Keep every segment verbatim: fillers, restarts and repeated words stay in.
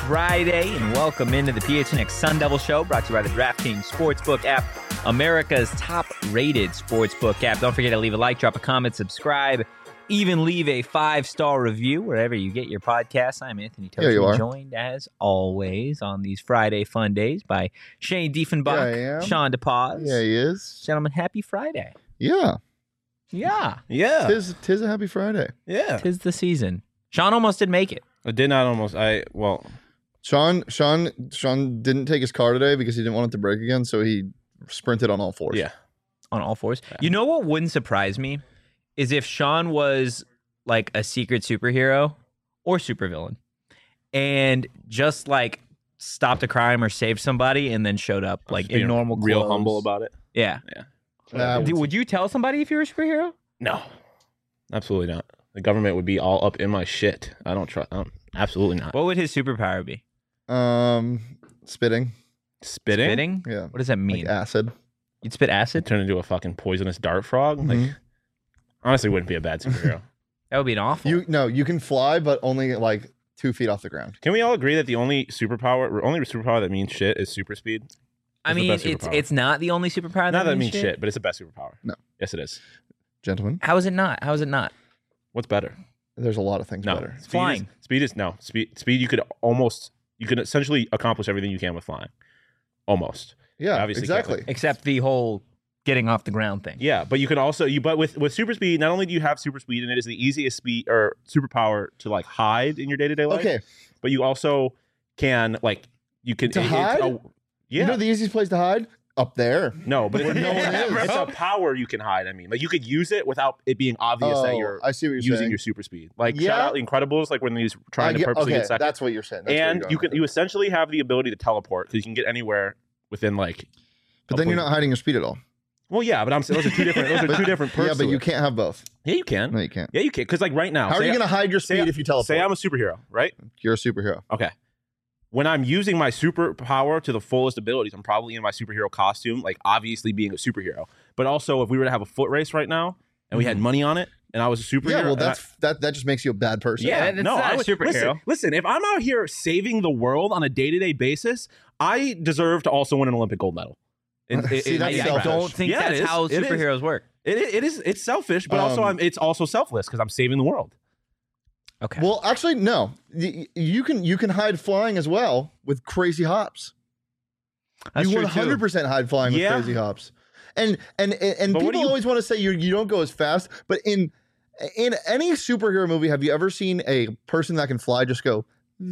Friday, and welcome into the P H N X Sun Devil Show, brought to you by the DraftKings Sportsbook app, America's top-rated sportsbook app. Don't forget to leave a like, drop a comment, subscribe, even leave a five-star review wherever you get your podcasts. I'm Anthony Toshi, you are. joined as always on these Friday fun days by Shane Diefenbach, Yeah, I am. Sean DePaz. Yeah, he is. Gentlemen, happy Friday. Yeah. Yeah, Yeah. Tis, tis a happy Friday. Yeah. tis the season. Sean almost did make it. I did not almost. I, well, Sean Sean Sean didn't take his car today because he didn't want it to break again, so he sprinted on all fours. yeah. On all fours. You know what wouldn't surprise me is if Sean was like a secret superhero or supervillain and just like stopped a crime or saved somebody and then showed up like Just being in normal real clothes. humble about it. Yeah. That Dude, was- would you tell somebody if you were a superhero? No. Absolutely not. The government would be all up in my shit. I don't trust. Absolutely not. What would his superpower be? um spitting. Spitting? Spitting? Yeah. What does that mean? Like acid. You'd spit acid? Turn into a fucking poisonous dart frog? Like, Mhm. honestly, wouldn't be a bad superhero. That would be an awful. You no, you can fly, but only like two feet off the ground. Can we all agree that the only superpower, only superpower that means shit is super speed? I That's the mean, best it's superpower. it's not the only superpower. Not that it means means shit, but it's the best superpower. No. Yes, it is. Gentlemen, How is it not? How is it not? What's better? there's a lot of things No. better. Speed Flying. Is, speed is, no. Speed, speed, you could almost, you can essentially accomplish everything you can with flying. Almost. Yeah, Obviously can't, exactly. Except the whole getting off the ground thing. Yeah, but you can also you but with with super speed, not only do you have super speed and it is the easiest speed or superpower to like hide in your day-to-day life. Okay. But you also can like you can To it- it's hide? a- yeah. You know the easiest place to hide? Up there. no, but it's, Where no one is. it's a power you can hide. I mean, like you could use it without it being obvious that Oh, you're I see what you're using saying. your super speed. Like Yeah. shout out the Incredibles, like when he's trying I to get- purposely okay, get second. that's what you're saying. That's where and you're you going can with you it. essentially have the ability to teleport because you can get anywhere within like. But a then you're point. not hiding your speed at all. Well, yeah, but I'm saying those are two different. Those are two different perks. Yeah, but to you it. can't have both. Yeah, you can. No, you can't. Yeah, you can. Because like right now, How are say you I- going to hide your say speed I- if you teleport? Say I'm a superhero, right? You're a superhero. Okay. When I'm using my superpower to the fullest abilities, I'm probably in my superhero costume, like obviously being a superhero. But also, if we were to have a foot race right now and we had money on it, and I was a superhero, Yeah, well, and I- that's that. That just makes you a bad person. yeah, Yeah, that's no, not I a would, superhero. Listen, listen, if I'm out here saving the world on a day to day basis, I deserve to also win an Olympic gold medal. In- in- See, in- that's in I selfish. trash. don't think Yeah, it that's is. how It is. superheroes work. It, it, it is. It's selfish, but also Um, I'm, it's also selfless because I'm saving the world. Okay. Well, actually, no. Y- You can you can hide flying as well with crazy hops. That's you true, one hundred percent hide flying with Yeah. crazy hops. And and and, and But what people do you- always want to say you you don't go as fast, but in in any superhero movie, have you ever seen a person that can fly just go?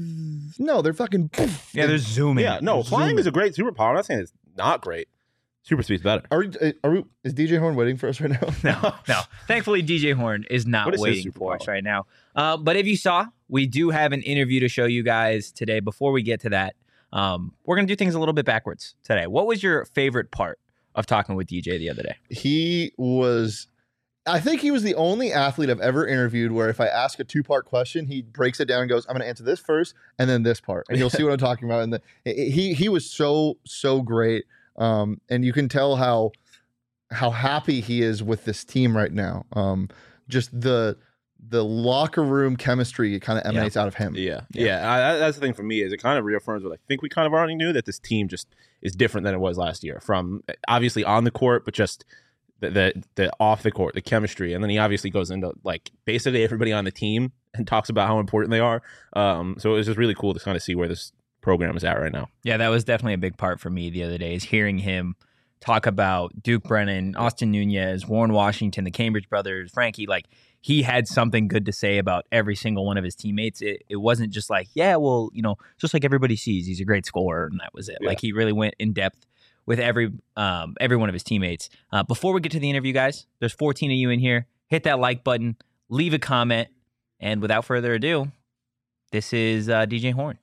No, they're fucking. Yeah, they're zooming. Yeah, no, flying zooming. is a great superpower. I'm not saying it's not great. Super speed's better. Are we, are we, is D J Horn waiting for us right now? No, no. Thankfully, D J Horn is not What is his waiting for superpower? us right now. Uh, but if you saw, we do have an interview to show you guys today. Before we get to that, um, we're going to do things a little bit backwards today. What was your favorite part of talking with D J the other day? He was. I think he was the only athlete I've ever interviewed where if I ask a two part question, he breaks it down and goes, "I'm going to answer this first and then this part," and you'll see what I'm talking about. And the, he he was so so great, um, and you can tell how how happy he is with this team right now. Um, just the the locker room chemistry kind of emanates out of him. Yeah, yeah. I, I- that's the thing for me is it kind of reaffirms what I think we kind of already knew, that this team just is different than it was last year. From obviously on the court, but just the the, the off the court, the chemistry, and then he obviously goes into like basically everybody on the team and talks about how important they are. Um, so it was just really cool to kind of see where this program is at right now. Yeah, that was definitely a big part for me the other day, is hearing him talk about Duke Brennan, Austin Nunez, Warren Washington, the Cambridge brothers, Frankie. Like, he had something good to say about every single one of his teammates. It, it wasn't just like, yeah, well, you know, just like everybody sees, he's a great scorer, and that was it. Yeah. Like, he really went in depth with every um, every one of his teammates. Uh, before we get to the interview, guys, there's fourteen of you in here. Hit that like button, leave a comment, and without further ado, this is uh, D J Horn.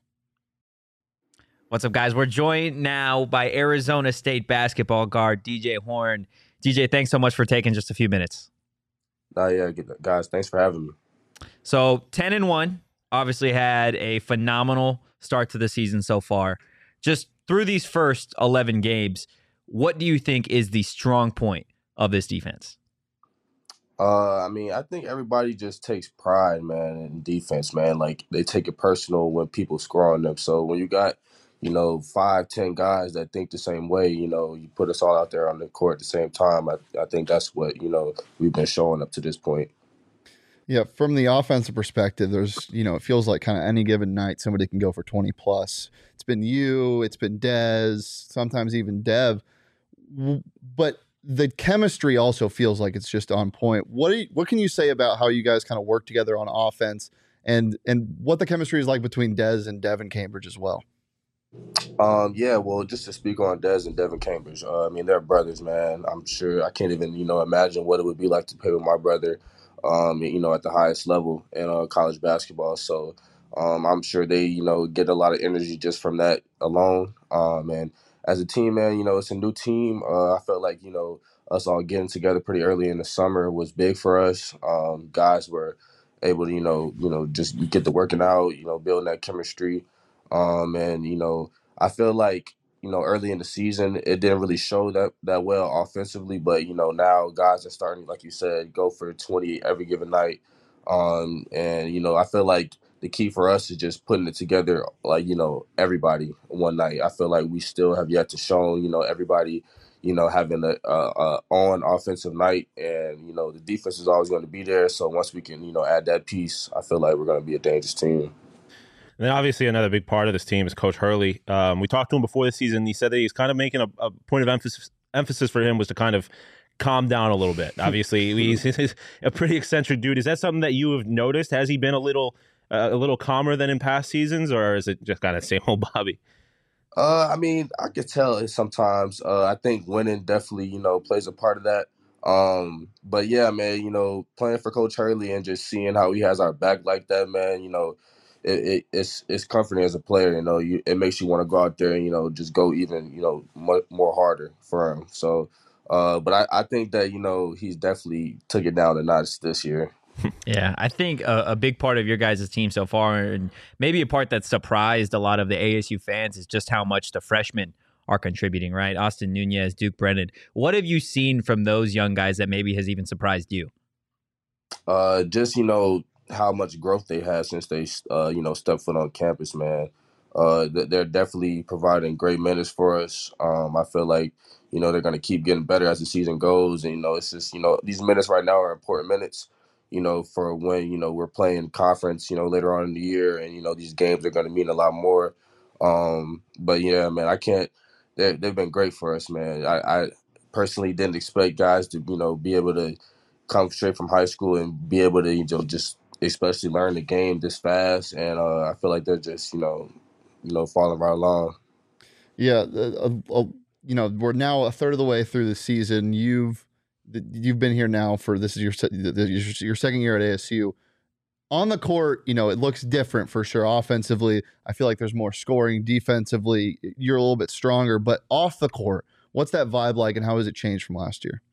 What's up, guys? We're joined now by Arizona State basketball guard D J Horn. D J, thanks so much for taking just a few minutes. Uh, yeah, good- guys, thanks for having me. So ten and one, obviously had a phenomenal start to the season so far. Just through these first eleven games, what do you think is the strong point of this defense? Uh, I mean, I think everybody just takes pride, man, in defense, man. Like they take it personal when people score on them. So when you got, you know, five, ten guys that think the same way, you know, you put us all out there on the court at the same time. I, I think that's what you know we've been showing up to this point. Yeah, from the offensive perspective, there's, you know, it feels like kind of any given night somebody can go for twenty plus. It's been you, it's been Dez, sometimes even Dev. But the chemistry also feels like it's just on point. What do you, what can you say about how you guys kind of work together on offense and and what the chemistry is like between Dez and Devin Cambridge as well? Um, yeah, well, just to speak on Dez and Devin Cambridge, uh, I mean, they're brothers, man. I'm sure I can't even, you know, imagine what it would be like to play with my brother, um, you know, at the highest level in uh, college basketball. So um, I'm sure they, you know, get a lot of energy just from that alone. Um, and as a team, man, you know, it's a new team. Uh, I felt like, you know, us all getting together pretty early in the summer was big for us. Um, guys were able to, you know, you know, just get to working out, you know, building that chemistry. Um, and, you know, I feel like, you know, early in the season, it didn't really show that that well offensively, but, you know, now guys are starting, like you said, go for twenty every given night. Um, and, you know, I feel like the key for us is just putting it together, like, you know, everybody one night. I feel like we still have yet to show, you know, everybody, you know, having a, a, a on offensive night, and, you know, the defense is always going to be there. So once we can, you know, add that piece, I feel like we're going to be a dangerous team. And then obviously another big part of this team is Coach Hurley. Um, we talked to him before the season. He said that he's kind of making a, a point of emphasis emphasis for him was to kind of calm down a little bit. Obviously, he's, he's a pretty eccentric dude. Is that something that you have noticed? Has he been a little uh, a little calmer than in past seasons, or is it just kind of same old Bobby? Uh, I mean, I could tell it sometimes. Uh, I think winning definitely, you know, plays a part of that. Um, but yeah, man, you know, playing for Coach Hurley and just seeing how he has our back like that, man, you know, it, it it's it's comforting as a player. You know, you it makes you want to go out there and, you know, just go even, you know, much more harder for him. So, uh, but I, I think that, you know, he's definitely took it down a notch this year. Yeah, I think a, a big part of your guys' team so far, and maybe a part that surprised a lot of the A S U fans, is just how much the freshmen are contributing, right? Austin Nunez, Duke Brennan. What have you seen from those young guys that maybe has even surprised you? Uh, just, you know, how much growth they had since they, uh, you know, stepped foot on campus, man. Uh, they're definitely providing great minutes for us. Um, I feel like, you know, they're going to keep getting better as the season goes. And, you know, it's just, you know, these minutes right now are important minutes, you know, for when, you know, we're playing conference, you know, later on in the year. And, you know, these games are going to mean a lot more. Um, but, yeah, man, I can't, they've been great for us, man. I, I personally didn't expect guys to, you know, be able to come straight from high school and be able to, you know, just especially learn the game this fast. And uh, I feel like they're just, you know, you know, falling right along. Yeah, uh, uh, you know, we're now a third of the way through the season. You've you've been here now for this is your your second year at A S U. On the court, you know, it looks different for sure. Offensively, I feel like there's more scoring. Defensively, you're a little bit stronger. But off the court, what's that vibe like, and how has it changed from last year?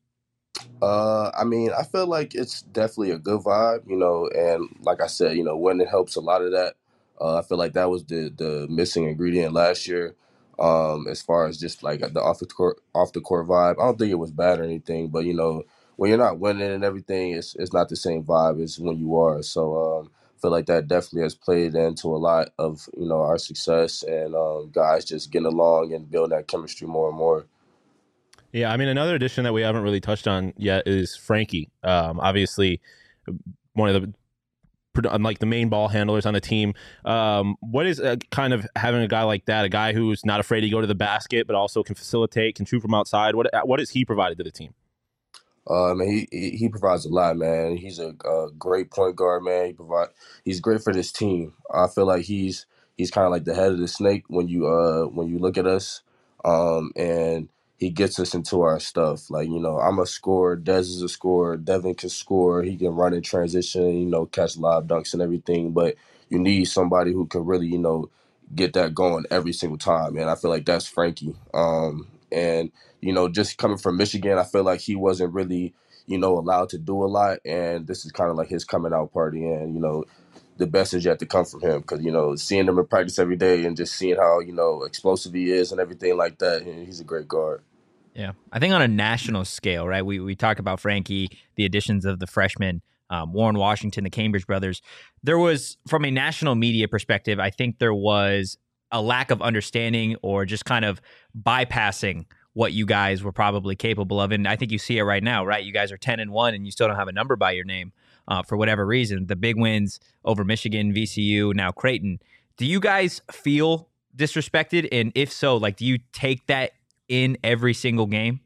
Uh, I mean, I feel like it's definitely a good vibe, you know, and like I said, you know, winning helps a lot of that. Uh, I feel like that was the the missing ingredient last year, um, as far as just like the off the court off the court vibe. I don't think it was bad or anything, but you know, when you're not winning and everything, it's it's not the same vibe as when you are. So um, I feel like that definitely has played into a lot of you know our success and um, guys just getting along and building that chemistry more and more. Yeah, I mean, another addition that we haven't really touched on yet is Frankie. Um, obviously, one of the like the main ball handlers on the team. Um, what is uh, kind of having a guy like that, a guy who's not afraid to go to the basket, but also can facilitate, can shoot from outside? What what has he provided to the team? Uh, man, he he provides a lot, man. He's a, a great point guard, man. He provide he's great for this team. I feel like he's he's kind of like the head of the snake when you uh when you look at us, um, and he gets us into our stuff. Like you know, I'm a scorer. Dez is a scorer. Devin can score. He can run in transition. You know, catch live dunks and everything. But you need somebody who can really you know get that going every single time. And I feel like that's Frankie. Um, and you know, just coming from Michigan, I feel like he wasn't really, you know, allowed to do a lot. And this is kind of like his coming out party. And, you know, the best is yet to come from him because, you know, seeing him in practice every day and just seeing how, you know, explosive he is and everything like that, he's a great guard. Yeah, I think on a national scale, right? We we talk about Frankie, the additions of the freshmen, um, Warren Washington, the Cambridge brothers. There was, from a national media perspective, I think there was a lack of understanding or just kind of bypassing what you guys were probably capable of, and I think you see it right now, right? You guys are ten and one, and you still don't have a number by your name uh, for whatever reason. The big wins over Michigan, V C U, now Creighton. Do you guys feel disrespected? And if so, like, do you take that in every single game?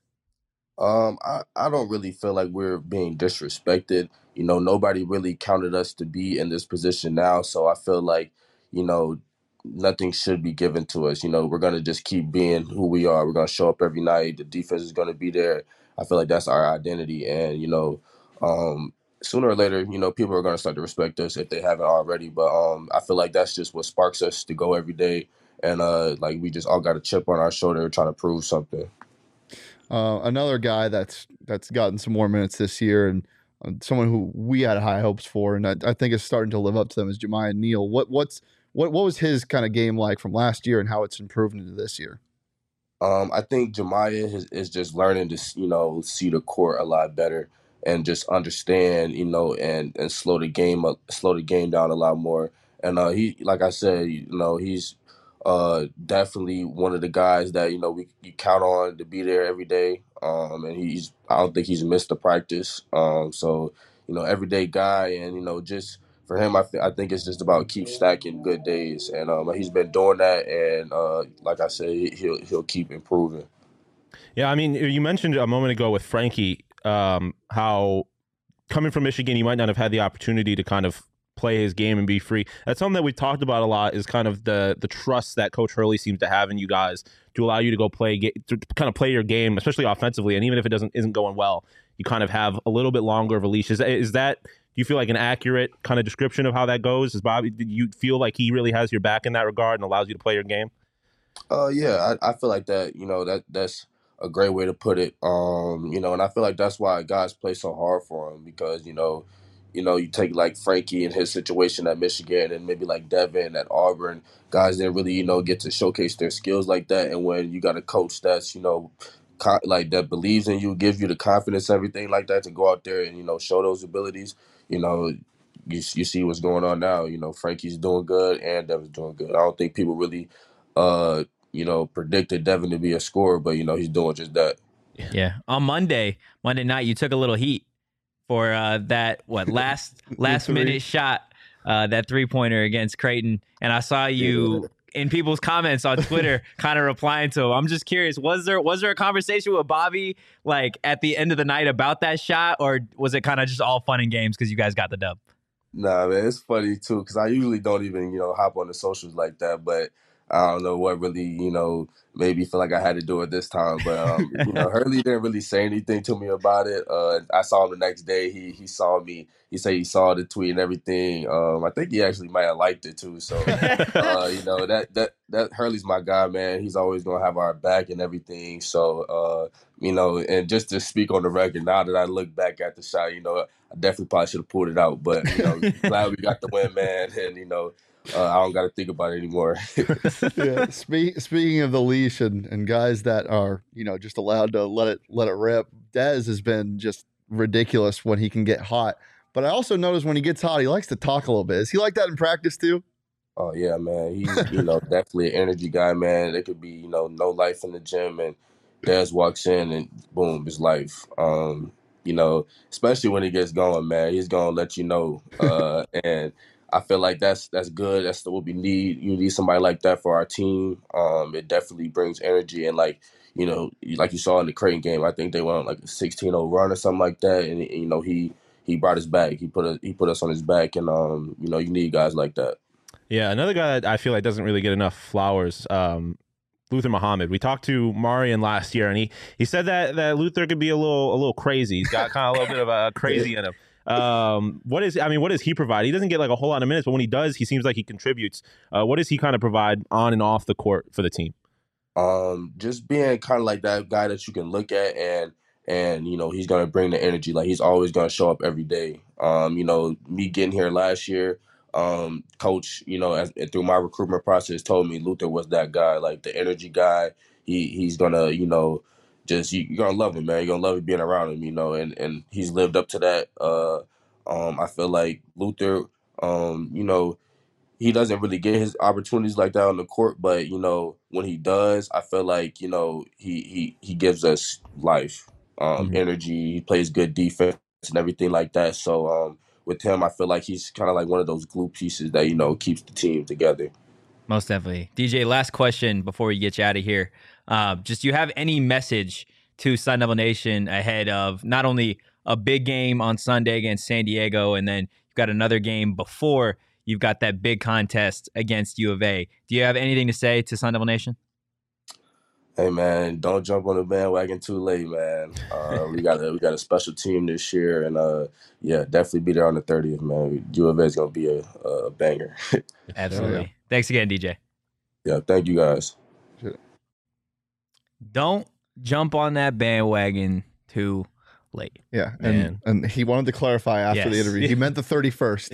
Um, I, I don't really feel like we're being disrespected. You know, nobody really counted us to be in this position now. So I feel like, you know, nothing should be given to us. You know, we're going to just keep being who we are. We're going to show up every night. The defense is going to be there. I feel like that's our identity. And, you know, um, sooner or later, you know, people are going to start to respect us if they haven't already. But um, I feel like that's just what sparks us to go every day. And, uh, like, we just all got a chip on our shoulder trying to prove something. Uh, another guy that's that's gotten some more minutes this year, and uh, someone who we had high hopes for, and I, I think is starting to live up to them, is Jemiah Neal. What what's what what was his kind of game like from last year, and how it's improved into this year? Um, I think Jemiah is, is just learning to, you know, see the court a lot better and just understand, you know, and and slow the game up, slow the game down a lot more. And uh, he, like I said, you know, he's uh, definitely one of the guys that you know we you count on to be there every day. Um, and he's, I don't think he's missed a practice. Um, so you know, everyday guy, and you know, just for him, I, th- I think it's just about keep stacking good days, and um, he's been doing that. And uh, like I said, he'll he'll keep improving. Yeah, I mean, you mentioned a moment ago with Frankie um, how coming from Michigan, you might not have had the opportunity to kind of play his game and be free. That's something that we've talked about a lot, is kind of the the trust that Coach Hurley seems to have in you guys to allow you to go play, to kind of play your game, especially offensively. And even if it doesn't isn't going well, you kind of have a little bit longer of a leash. Is, is that, do you feel like an accurate kind of description of how that goes? Is Bobby, did you feel like he really has your back in that regard and allows you to play your game? Uh, yeah, I, I feel like that. You know, that that's a great way to put it. Um, you know, and I feel like that's why guys play so hard for him, because you know, you know, you take like Frankie and his situation at Michigan, and maybe like Devin at Auburn. Guys didn't really, you know, get to showcase their skills like that. And when you got a coach that's, you know, co- like that believes in you, gives you the confidence, everything like that, to go out there and you know show those abilities, you know. You, you see what's going on now. You know, Frankie's doing good and Devin's doing good. I don't think people really uh you know, predicted Devin to be a scorer, but you know he's doing just that. Yeah. On Monday, Monday night, you took a little heat for uh, that what last last minute shot, uh, that three pointer against Creighton, and I saw you in people's comments on Twitter, kind of replying to him. I'm just curious, was there was there a conversation with Bobby like at the end of the night about that shot, or was it kind of just all fun and games because you guys got the dub? Nah, man, it's funny too, because I usually don't even, you know, hop on the socials like that, but I don't know what really, you know, made me feel like I had to do it this time. But um, you know, Hurley didn't really say anything to me about it. Uh, I saw him the next day. He he saw me. He said he saw the tweet and everything. Um, I think he actually might have liked it too. So uh, you know, that that that Hurley's my guy, man. He's always gonna have our back and everything. So uh, you know, and just to speak on the record, now that I look back at the shot, you know, I definitely probably should have pulled it out, but you know, glad we got the win, man. And you know, uh, I don't got to think about it anymore. Yeah. Spe- speaking of the leash and, and guys that are, you know, just allowed to let it let it rip, Dez has been just ridiculous when he can get hot. But I also notice when he gets hot, he likes to talk a little bit. Is he like that in practice too? Oh yeah, man. He's you know definitely an energy guy, man. There could be you know no life in the gym, and Dez walks in and boom, it's life. Um, you know, especially when he gets going, man, he's gonna let you know. Uh, and I feel like that's that's good. That's what we need. You need somebody like that for our team. Um, it definitely brings energy, and like you know, like you saw in the Creighton game, I think they went on like a sixteen oh run or something like that, and you know he he brought us back. He put a, he put us on his back, and um, you know, you need guys like that. Yeah, another guy that I feel like doesn't really get enough flowers, um, Luther Muhammad. We talked to Marian last year, and he, he said that, that Luther could be a little a little crazy. He's got kind of a little bit of a crazy in him. Um, what is I mean, what does he provide? He doesn't get like a whole lot of minutes, but when he does, he seems like he contributes. Uh, what does he kind of provide on and off the court for the team? Um, just being kind of like that guy that you can look at and and you know he's gonna bring the energy. Like he's always gonna show up every day. Um, you know, me getting here last year, um, coach, you know, as, through my recruitment process, told me Luther was that guy, like the energy guy. He he's gonna, you know, just you, you're gonna love him, man. You're gonna love being around him, you know. And and he's lived up to that. Uh, um, I feel like Luther, um, you know, he doesn't really get his opportunities like that on the court, but you know, when he does, I feel like you know he he he gives us life, um, Mhm. energy. He plays good defense and everything like that. So um, with him, I feel like he's kind of like one of those glue pieces that you know keeps the team together. Most definitely. D J, last question before we get you out of here. Uh, just do you have any message to Sun Devil Nation ahead of not only a big game on Sunday against San Diego, and then you've got another game before you've got that big contest against U of A? Do you have anything to say to Sun Devil Nation? Hey man, don't jump on the bandwagon too late, man. Uh, we got a we got a special team this year, and uh, yeah, definitely be there on the thirtieth, man. U of A is gonna be a, a banger. Absolutely. Yeah. Thanks again, D J. Yeah, thank you guys. Don't jump on that bandwagon too late. Yeah, and Man. and he wanted to clarify after the Yes. interview. He meant the thirty-first.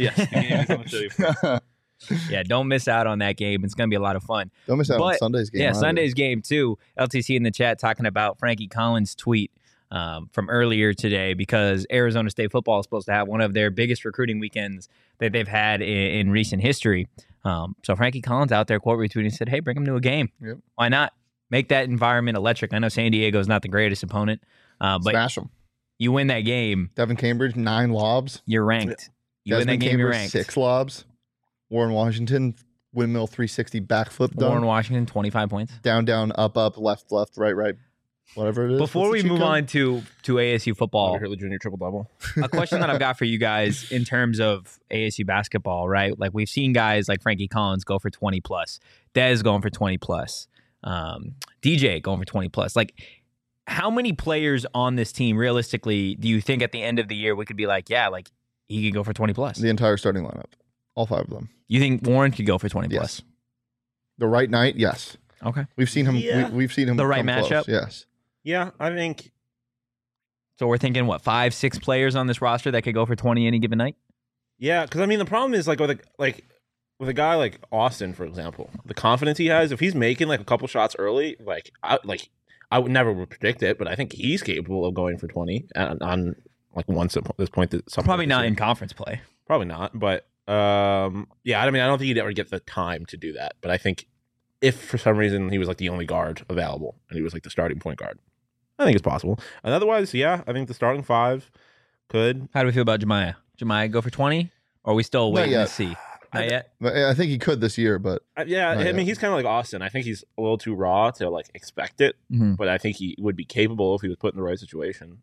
Yeah, don't miss out on that game. It's going to be a lot of fun. Don't miss out on But, Sunday's game. Yeah, either. Sunday's game too. L T C in the chat talking about Frankie Collins' tweet um, from earlier today, because Arizona State football is supposed to have one of their biggest recruiting weekends that they've had in, in recent history. Um, so Frankie Collins out there quote retweeting and said, "Hey, bring him to a game. Yep. Why not make that environment electric?" I know San Diego is not the greatest opponent, uh, but Smash him. you win that game, Devin Cambridge, nine lobs. you're ranked. You win Desmond that game, you're Cambridge, ranked. six lobs. Warren Washington, windmill three sixty backflip dunk. Warren Washington, twenty-five points. Down, down, up, up, left, left, right, right, whatever it is. Before What's we the cheat move code? on to to A S U football, Hurley Junior triple double. a question that I've got for you guys in terms of A S U basketball, right? Like we've seen guys like Frankie Collins go for twenty plus, Dez going for twenty plus, um, D J going for twenty plus. Like, how many players on this team, realistically, do you think at the end of the year we could be like, yeah, like he could go for twenty plus? The entire starting lineup. All five of them. You think Warren could go for twenty Yes. plus? The right night, yes. Okay. We've seen him. Yeah. We, we've seen him. The right come close, matchup? Yes. Yeah, I think. So we're thinking, what, five, six players on this roster that could go for twenty any given night? Yeah, because I mean the problem is like with a like with a guy like Austin, for example, the confidence he has. If he's making like a couple shots early, like I like I would never would predict it, but I think he's capable of going for twenty on, on like once at this point. That some Probably point this not year. in conference play. Probably not, but um, yeah. I mean, I don't think he'd ever get the time to do that. But I think if for some reason he was like the only guard available and he was like the starting point guard, I think it's possible. And otherwise, yeah, I think the starting five could. How do we feel about Jemiah? Jemiah go for twenty? Or are we still waiting to yet. see? Not yet? But I think he could this year, but Uh, yeah, Not I mean, yet. he's kind of like Austin. I think he's a little too raw to like expect it, Mm-hmm. but I think he would be capable if he was put in the right situation.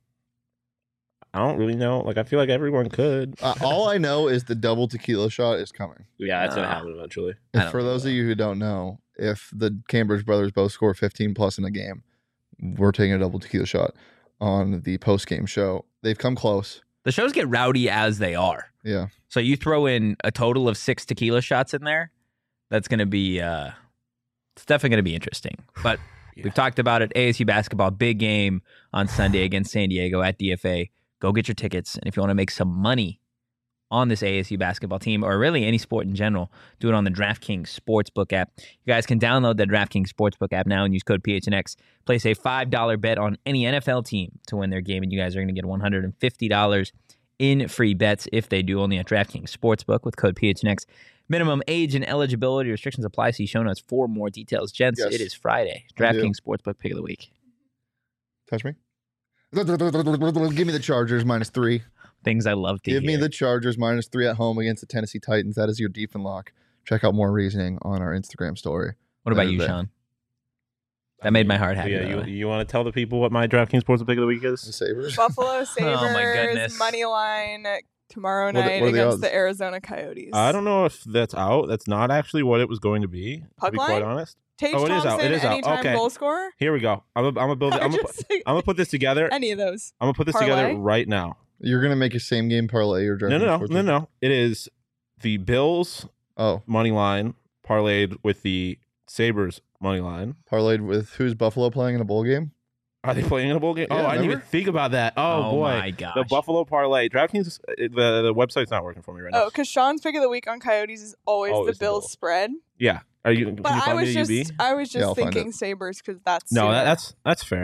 I don't really know. Like, I feel like everyone could. uh, all I know is the double tequila shot is coming. Yeah, that's gonna Nah. happen eventually. I If don't for think those it of you who don't know, if the Cambridge brothers both score fifteen plus in a game, we're taking a double tequila shot on the post game show. They've come close. The shows get rowdy as they are. Yeah. So you throw in a total of six tequila shots in there, that's going to be, uh, it's definitely going to be interesting. But Yeah. we've talked about it. A S U basketball, big game on Sunday against San Diego at D F A. Go get your tickets. And if you want to make some money on this A S U basketball team, or really any sport in general, do it on the DraftKings Sportsbook app. You guys can download the DraftKings Sportsbook app now and use code P H N X. Place a five dollar bet on any N F L team to win their game, and you guys are going to get one hundred fifty dollars in free bets if they do, only at DraftKings Sportsbook with code P H N X. Minimum age and eligibility restrictions apply. See show notes for more details. Gents, Yes. it is Friday. I do. DraftKings Sportsbook Pick of the Week. Touch me. Give me the Chargers minus three. Things I love to Give hear. me the Chargers minus three at home against the Tennessee Titans. That is your deep and lock. Check out more reasoning on our Instagram story. What about Better you, than- Sean? That made my heart happy. Yeah, by the you way. you want to tell the people what my DraftKings Sports Pick of the Week The is? Sabres. Buffalo Sabres Oh, my goodness. money line tomorrow What are- night what are the against odds? the Arizona Coyotes. I don't know if that's out. That's not actually what it was going to be. To Puck be line? quite honest. Tage Oh, it is Thompson, out. It is out. anytime Okay. goal scorer. Here we go. I'm gonna I'm build it. I'm gonna Just- I'm gonna put this together. any of those. I'm gonna put this Parlay? together right now. You're gonna make a same game parlay or No, no, no, no, no. It is the Bills Oh, money line parlayed with the Sabres money line. parlayed with who's Buffalo playing in a bowl game? Are they playing in a bowl game? Yeah, oh, I didn't even remember? think about that. Oh, Oh, boy, my gosh. the Buffalo parlay. DraftKings, uh, the the website's not working for me right Oh, now. because Sean's pick of the week on Coyotes is always, Always the the Bills Bills. spread. Yeah. Are you? Can But you I find was me the just U B? I was Yeah, I'll just find thinking Sabres because that's No, sooner. that, that's that's fair.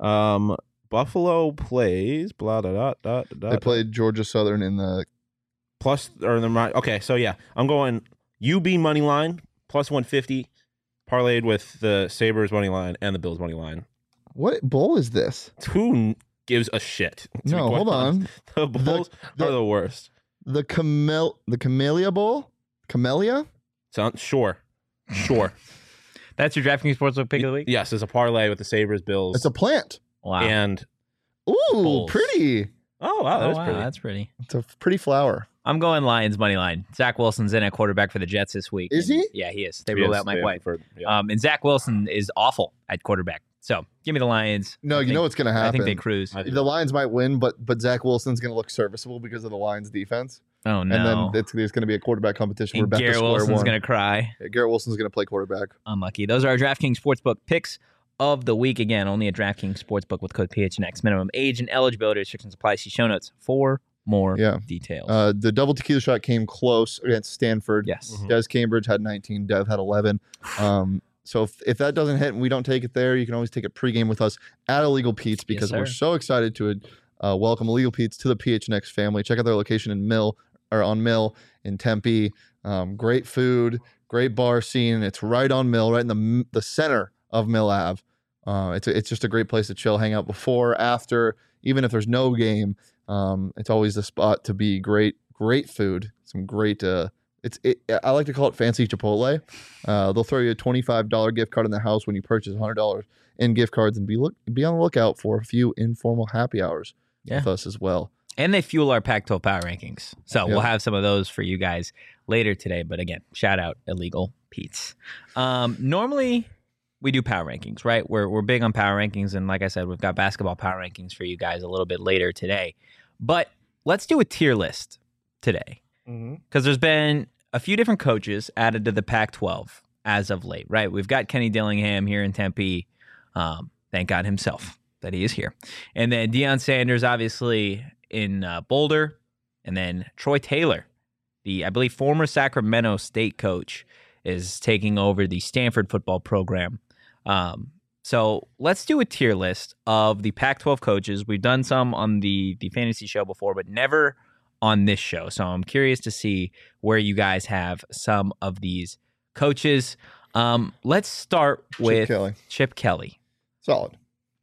Um, Buffalo plays blah da da da da. They played Georgia Southern in the plus or the right. Okay, so yeah, I'm going U B money line plus one fifty, parlayed with the Sabres money line and the Bills money line. what bowl is this? Who gives a shit? to be No, quite hold honest. on. The Bulls the- are the worst. The Camel the Camellia Bowl? Camellia? Sound sure, sure. That's your DraftKings Sportsbook pick of the week? Yes, it's a parlay with the Sabres, Bills, It's a plant. Wow. and Ooh, Bulls. pretty. oh wow, Oh, that's wow, pretty. that's pretty. It's a pretty flower. I'm going Lions money line. Zach Wilson's in at quarterback for the Jets this week. Is and- he? Yeah, he is. They Yes, rolled out Mike they White. preferred- yeah. Um, and Zach Wilson is awful at quarterback. So give me the Lions. No, I you think- know what's going to happen. I think they cruise. I- The Lions might win, but but Zach Wilson's going to look serviceable because of the Lions' defense, Oh and no. then it's, there's going to be a quarterback competition. We're And back to Garrett square Wilson's one. going to cry. Yeah, Garrett Wilson's going to play quarterback. Unlucky. Those are our DraftKings Sportsbook picks of the week. Again, only at DraftKings Sportsbook with code P H N X. Minimum age and eligibility restrictions apply. See show notes for more Yeah. details. Uh, the double tequila shot came close against Stanford. yes. Mhm. Des Cambridge had nineteen. Dev had eleven. Um, so if, if that doesn't hit and we don't take it there, you can always take it pregame with us at Illegal Pete's because we're sir. so excited to uh, welcome Illegal Pete's to the P H N X family. Check out their location in Mill or on Mill in Tempe. Um, great food, great bar scene. It's right on Mill, right in the m- the center of Mill Ave. Uh, it's a, it's just a great place to chill, hang out before, after, even if there's no game. Um, it's always the spot to be. Great, great food. Some great. Uh, it's. It, I like to call it fancy Chipotle. Uh, they'll throw you a twenty-five dollars gift card in the house when you purchase one hundred dollars in gift cards, and be look be on the lookout for a few informal happy hours Yeah. with us as well. And they fuel our Pac twelve power rankings. So Yeah. we'll have some of those for you guys later today. But again, shout out Illegal Pete's. Um, normally we do power rankings, right? We're, we're big on power rankings. And like I said, we've got basketball power rankings for you guys a little bit later today. But let's do a tier list today. Mhm. Because there's been a few different coaches added to the Pac twelve as of late, right? We've got Kenny Dillingham here in Tempe. Um, thank God himself that he is here. And then Deion Sanders, obviously, in uh, Boulder. And then Troy Taylor, the, I believe, former Sacramento State coach, is taking over the Stanford football program. Um, so let's do a tier list of the Pac twelve coaches. We've done some on the, the fantasy show before, but never on this show. So I'm curious to see where you guys have some of these coaches. Um, let's start with Kelly. Chip Kelly. Solid.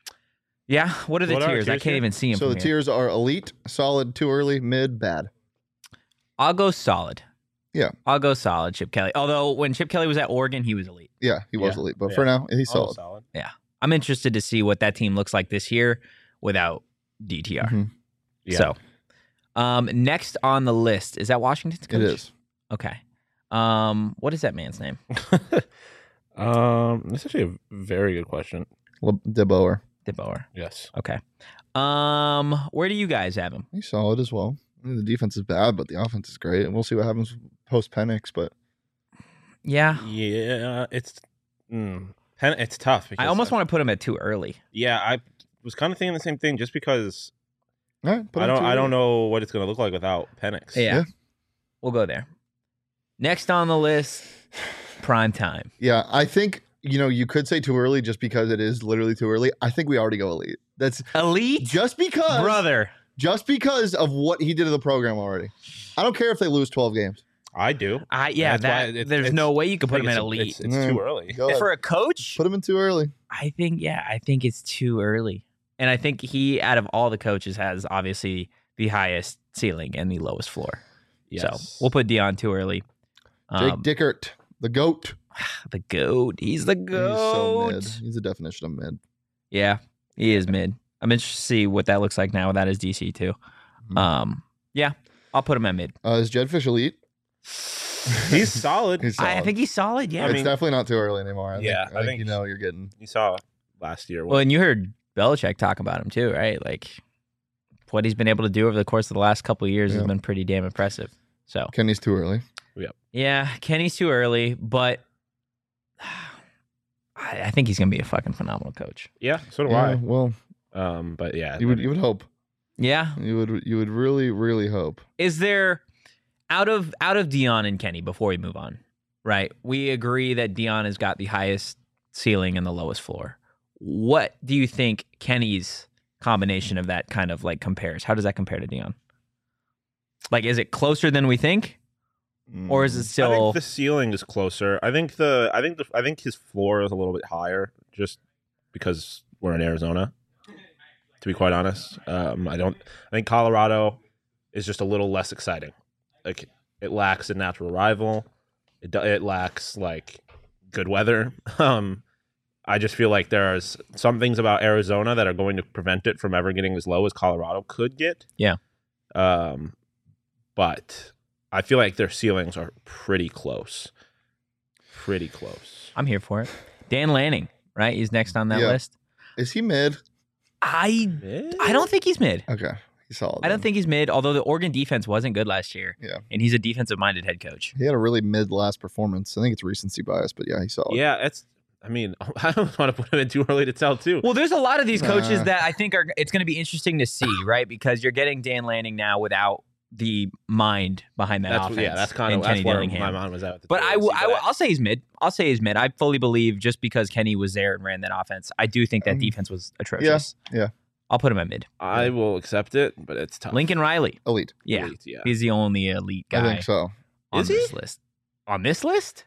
Yeah, what are the What are our tiers? I tiers can't here? even see them. So from the here. tiers are elite, solid, too early, mid, bad. I'll go solid. Yeah. I'll go solid, Chip Kelly. Although when Chip Kelly was at Oregon, he was elite. Yeah, he was Yeah. elite, but Yeah. for now, he's Oh, solid. solid. I'm interested to see what that team looks like this year without D T R. Mhm. Yeah. So, um, next on the list is that Washington's coach? It is. Okay. Um, what is that man's name? um, that's actually a very good question. Le- DeBoer. DeBoer. Yes. Okay. Um, where do you guys have him? He's solid as well. I mean, the defense is bad, but the offense is great. And we'll see what happens post Penix. But Yeah. Yeah, it's mm, Pen- it's tough. Because I almost want to put him at too early. Yeah, I was kind of thinking the same thing, just because all right, put I him don't two I don't early. know what it's going to look like without Penix. Yeah. Yeah. We'll go there. Next on the list, prime time. Yeah, I think you know you could say too early just because it is literally too early. I think we already go elite. That's Elite just because, brother. just because of what he did to the program already. I don't care if they lose twelve games. I do. I yeah, That's why that it's- there's it's- no way you could I put him think at it's- elite. It's, it's Mm. too early. Go ahead. For a coach, Put him in too early. I think yeah, I think it's too early. And I think he out of all the coaches has obviously the highest ceiling and the lowest floor. Yes. So we'll put Dion too early. Jake Um, Dickert, the goat. the goat. He's the He's so goat. mid. He's a definition of mid. Yeah, he is mid. I'm interested to see what that looks like now without his D C too. Mhm. Um, yeah, I'll put him at mid. Uh, is Jedfish elite? He's solid. He's solid. I, I think he's solid. Yeah. I it's mean- definitely not too early anymore. I Yeah, think, I I think think- you know what you're getting. You saw last year. well, What, and you heard Belichick talk about him too, right? Like what he's been able to do over the course of the last couple of years has Yeah. been pretty damn impressive. So Kenny's too early. yeah, Kenny's too early, but I, I think he's gonna be a fucking phenomenal coach. yeah, so do Yeah, well, I. Um, but yeah, you would you would hope. Yeah. You would you would really really hope. Is there out of out of Dion and Kenny before we move on, right? We agree that Dion has got the highest ceiling and the lowest floor. What do you think Kenny's combination of that kind of like compares? How does that compare to Dion? Like, is it closer than we think, or is it I still? think the ceiling is closer. I think the I think the I think his floor is a little bit higher, just because we're in Arizona. To be quite honest, um, I don't. I think Colorado is just a little less exciting. Like it lacks a natural rival. It do- it lacks like good weather. Um, I just feel like there's some things about Arizona that are going to prevent it from ever getting as low as Colorado could get. Yeah. Um, but I feel like their ceilings are pretty close. Pretty close. I'm here for it. Dan Lanning, right? He's next on that Yeah. list. Is he mid? I I don't think he's mid. Okay, he's solid. I don't then. think he's mid, although the Oregon defense wasn't good last year. Yeah. And he's a defensive-minded head coach. He had a really mid last performance. I think it's recency bias, but yeah, he's solid. Yeah, it's. I mean, I don't want to put him in too early to tell too. Well, there's a lot of these coaches Nah. that I think are it's going to be interesting to see, right? Because you're getting Dan Lanning now without the mind behind that That's offense. yeah, that's kind and of that's Kenny where Dillingham. my mind was at. With the But I T L C, will, I will, but I'll say he's mid. I'll say he's mid. I fully believe just because Kenny was there and ran that offense, I do think that Um, defense was atrocious. yeah. I'll put him at mid. I will accept it, but it's tough. Lincoln Riley. Elite. Yeah. Elite, yeah. He's the only elite I guy think so. on Is he? this list. On this list?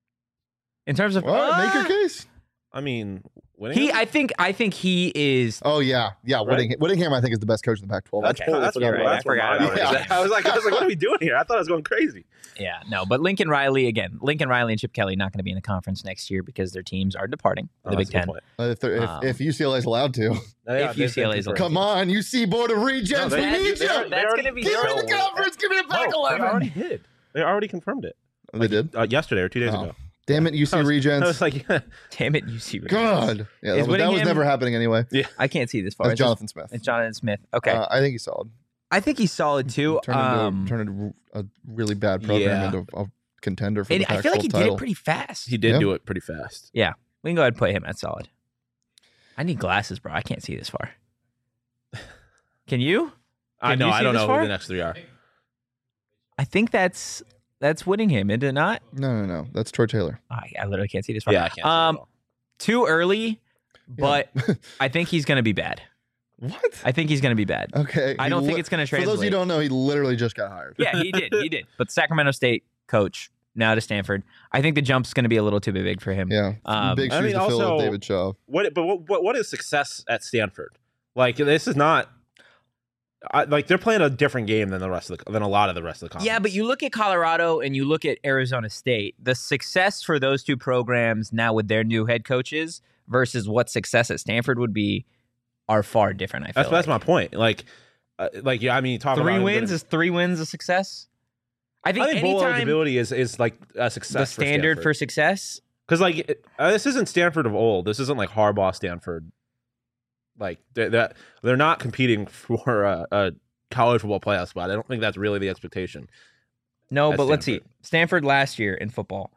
In terms of Well, make your Ah! case. I mean, winning. He I think I think he is Oh yeah, yeah. Right? Whittingham, Whittingham, I think, is the best coach in the Pac twelve. That's, Okay. that's, You're what, right. that's I forgot what about mine that. was. I was like, I was like, what are we doing here? I thought I was going crazy. Yeah, no, but Lincoln Riley again. Lincoln Riley and Chip Kelly not going to be in the conference next year because their teams are departing for the Oh, Big that's a good Ten. point. Uh, if, they're- if, Um, if U C L A is allowed to, No, yeah, If they've U C L A been is confirmed. come on, U C Board of Regents, No, we they- need they you. already- That's already- gonna be they Give me already- the conference. Give me the Pac No, they eleven. already did. They already confirmed it. They did. Uh, yesterday or two days Oh. ago. Damn it, U C I was- Regents. I was like, Damn it, U C. Regents. God, yeah, that Is was, that was Whittingham- never happening anyway. I can't see this far. That's It's just- Jonathan Smith. It's Jonathan Smith. Okay, Uh, I think he's solid. I think he's solid too. Turned Um, into, turned into a really bad program Yeah. into a contender for and the Pac I feel like he twelve did title. it pretty fast. he did Yeah. do it pretty fast. We can go ahead and put him at solid. I need glasses, bro. I can't see this far. Can you? I Can know. you I see don't this know far? who the next three are. I think that's that's Whittingham, is it not? No, no, no. That's Troy Taylor. I, I literally can't see this far. Yeah, I can't. Um, Um, too early, but I think he's going to be bad. What? I think he's going to be bad. Okay. I he don't think li- it's going to For translate. those who don't know, he literally just got hired. Yeah, he did. He did. But Sacramento State coach now to Stanford. I think the jump's going to be a little too big for him. Yeah. Um, Big I shoes mean, to fill also- with David Shaw. what? But what, what? What is success at Stanford? Like this is not. I, like they're playing a different game than the rest of the than a lot of the rest of the conference. Yeah, but you look at Colorado and you look at Arizona State. The success for those two programs now with their new head coaches versus what success at Stanford would be are far different. I feel that's that's like. my point. Like, uh, like yeah, I mean, you talk three about wins is three wins a success. I think, I think bowl anytime eligibility is is like a the success. standard for success. because like it- uh, this isn't Stanford of old. This isn't like Harbaugh Stanford. Like they're, they're, they're not competing for a, a college football playoff spot. I don't think that's really the expectation. No, At but let's see. Stanford. Stanford last year in football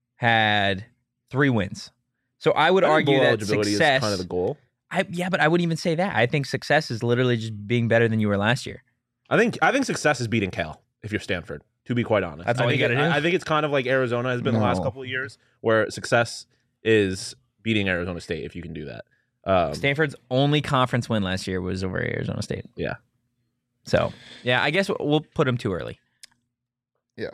had three wins. So I would I think argue bowl that eligibility success. is kind of the goal. I, yeah, but I wouldn't even say that. I think success is literally just being better than you were last year. I think I think success is beating Cal if you're Stanford. To be quite honest, That's I all you think gotta it- do? I, I think it's kind of like Arizona has been the last No. couple of years, where success is beating Arizona State if you can do that. Um, Stanford's only conference win last year was over Arizona State. Yeah. So, yeah, I guess we'll put them too early. Yeah.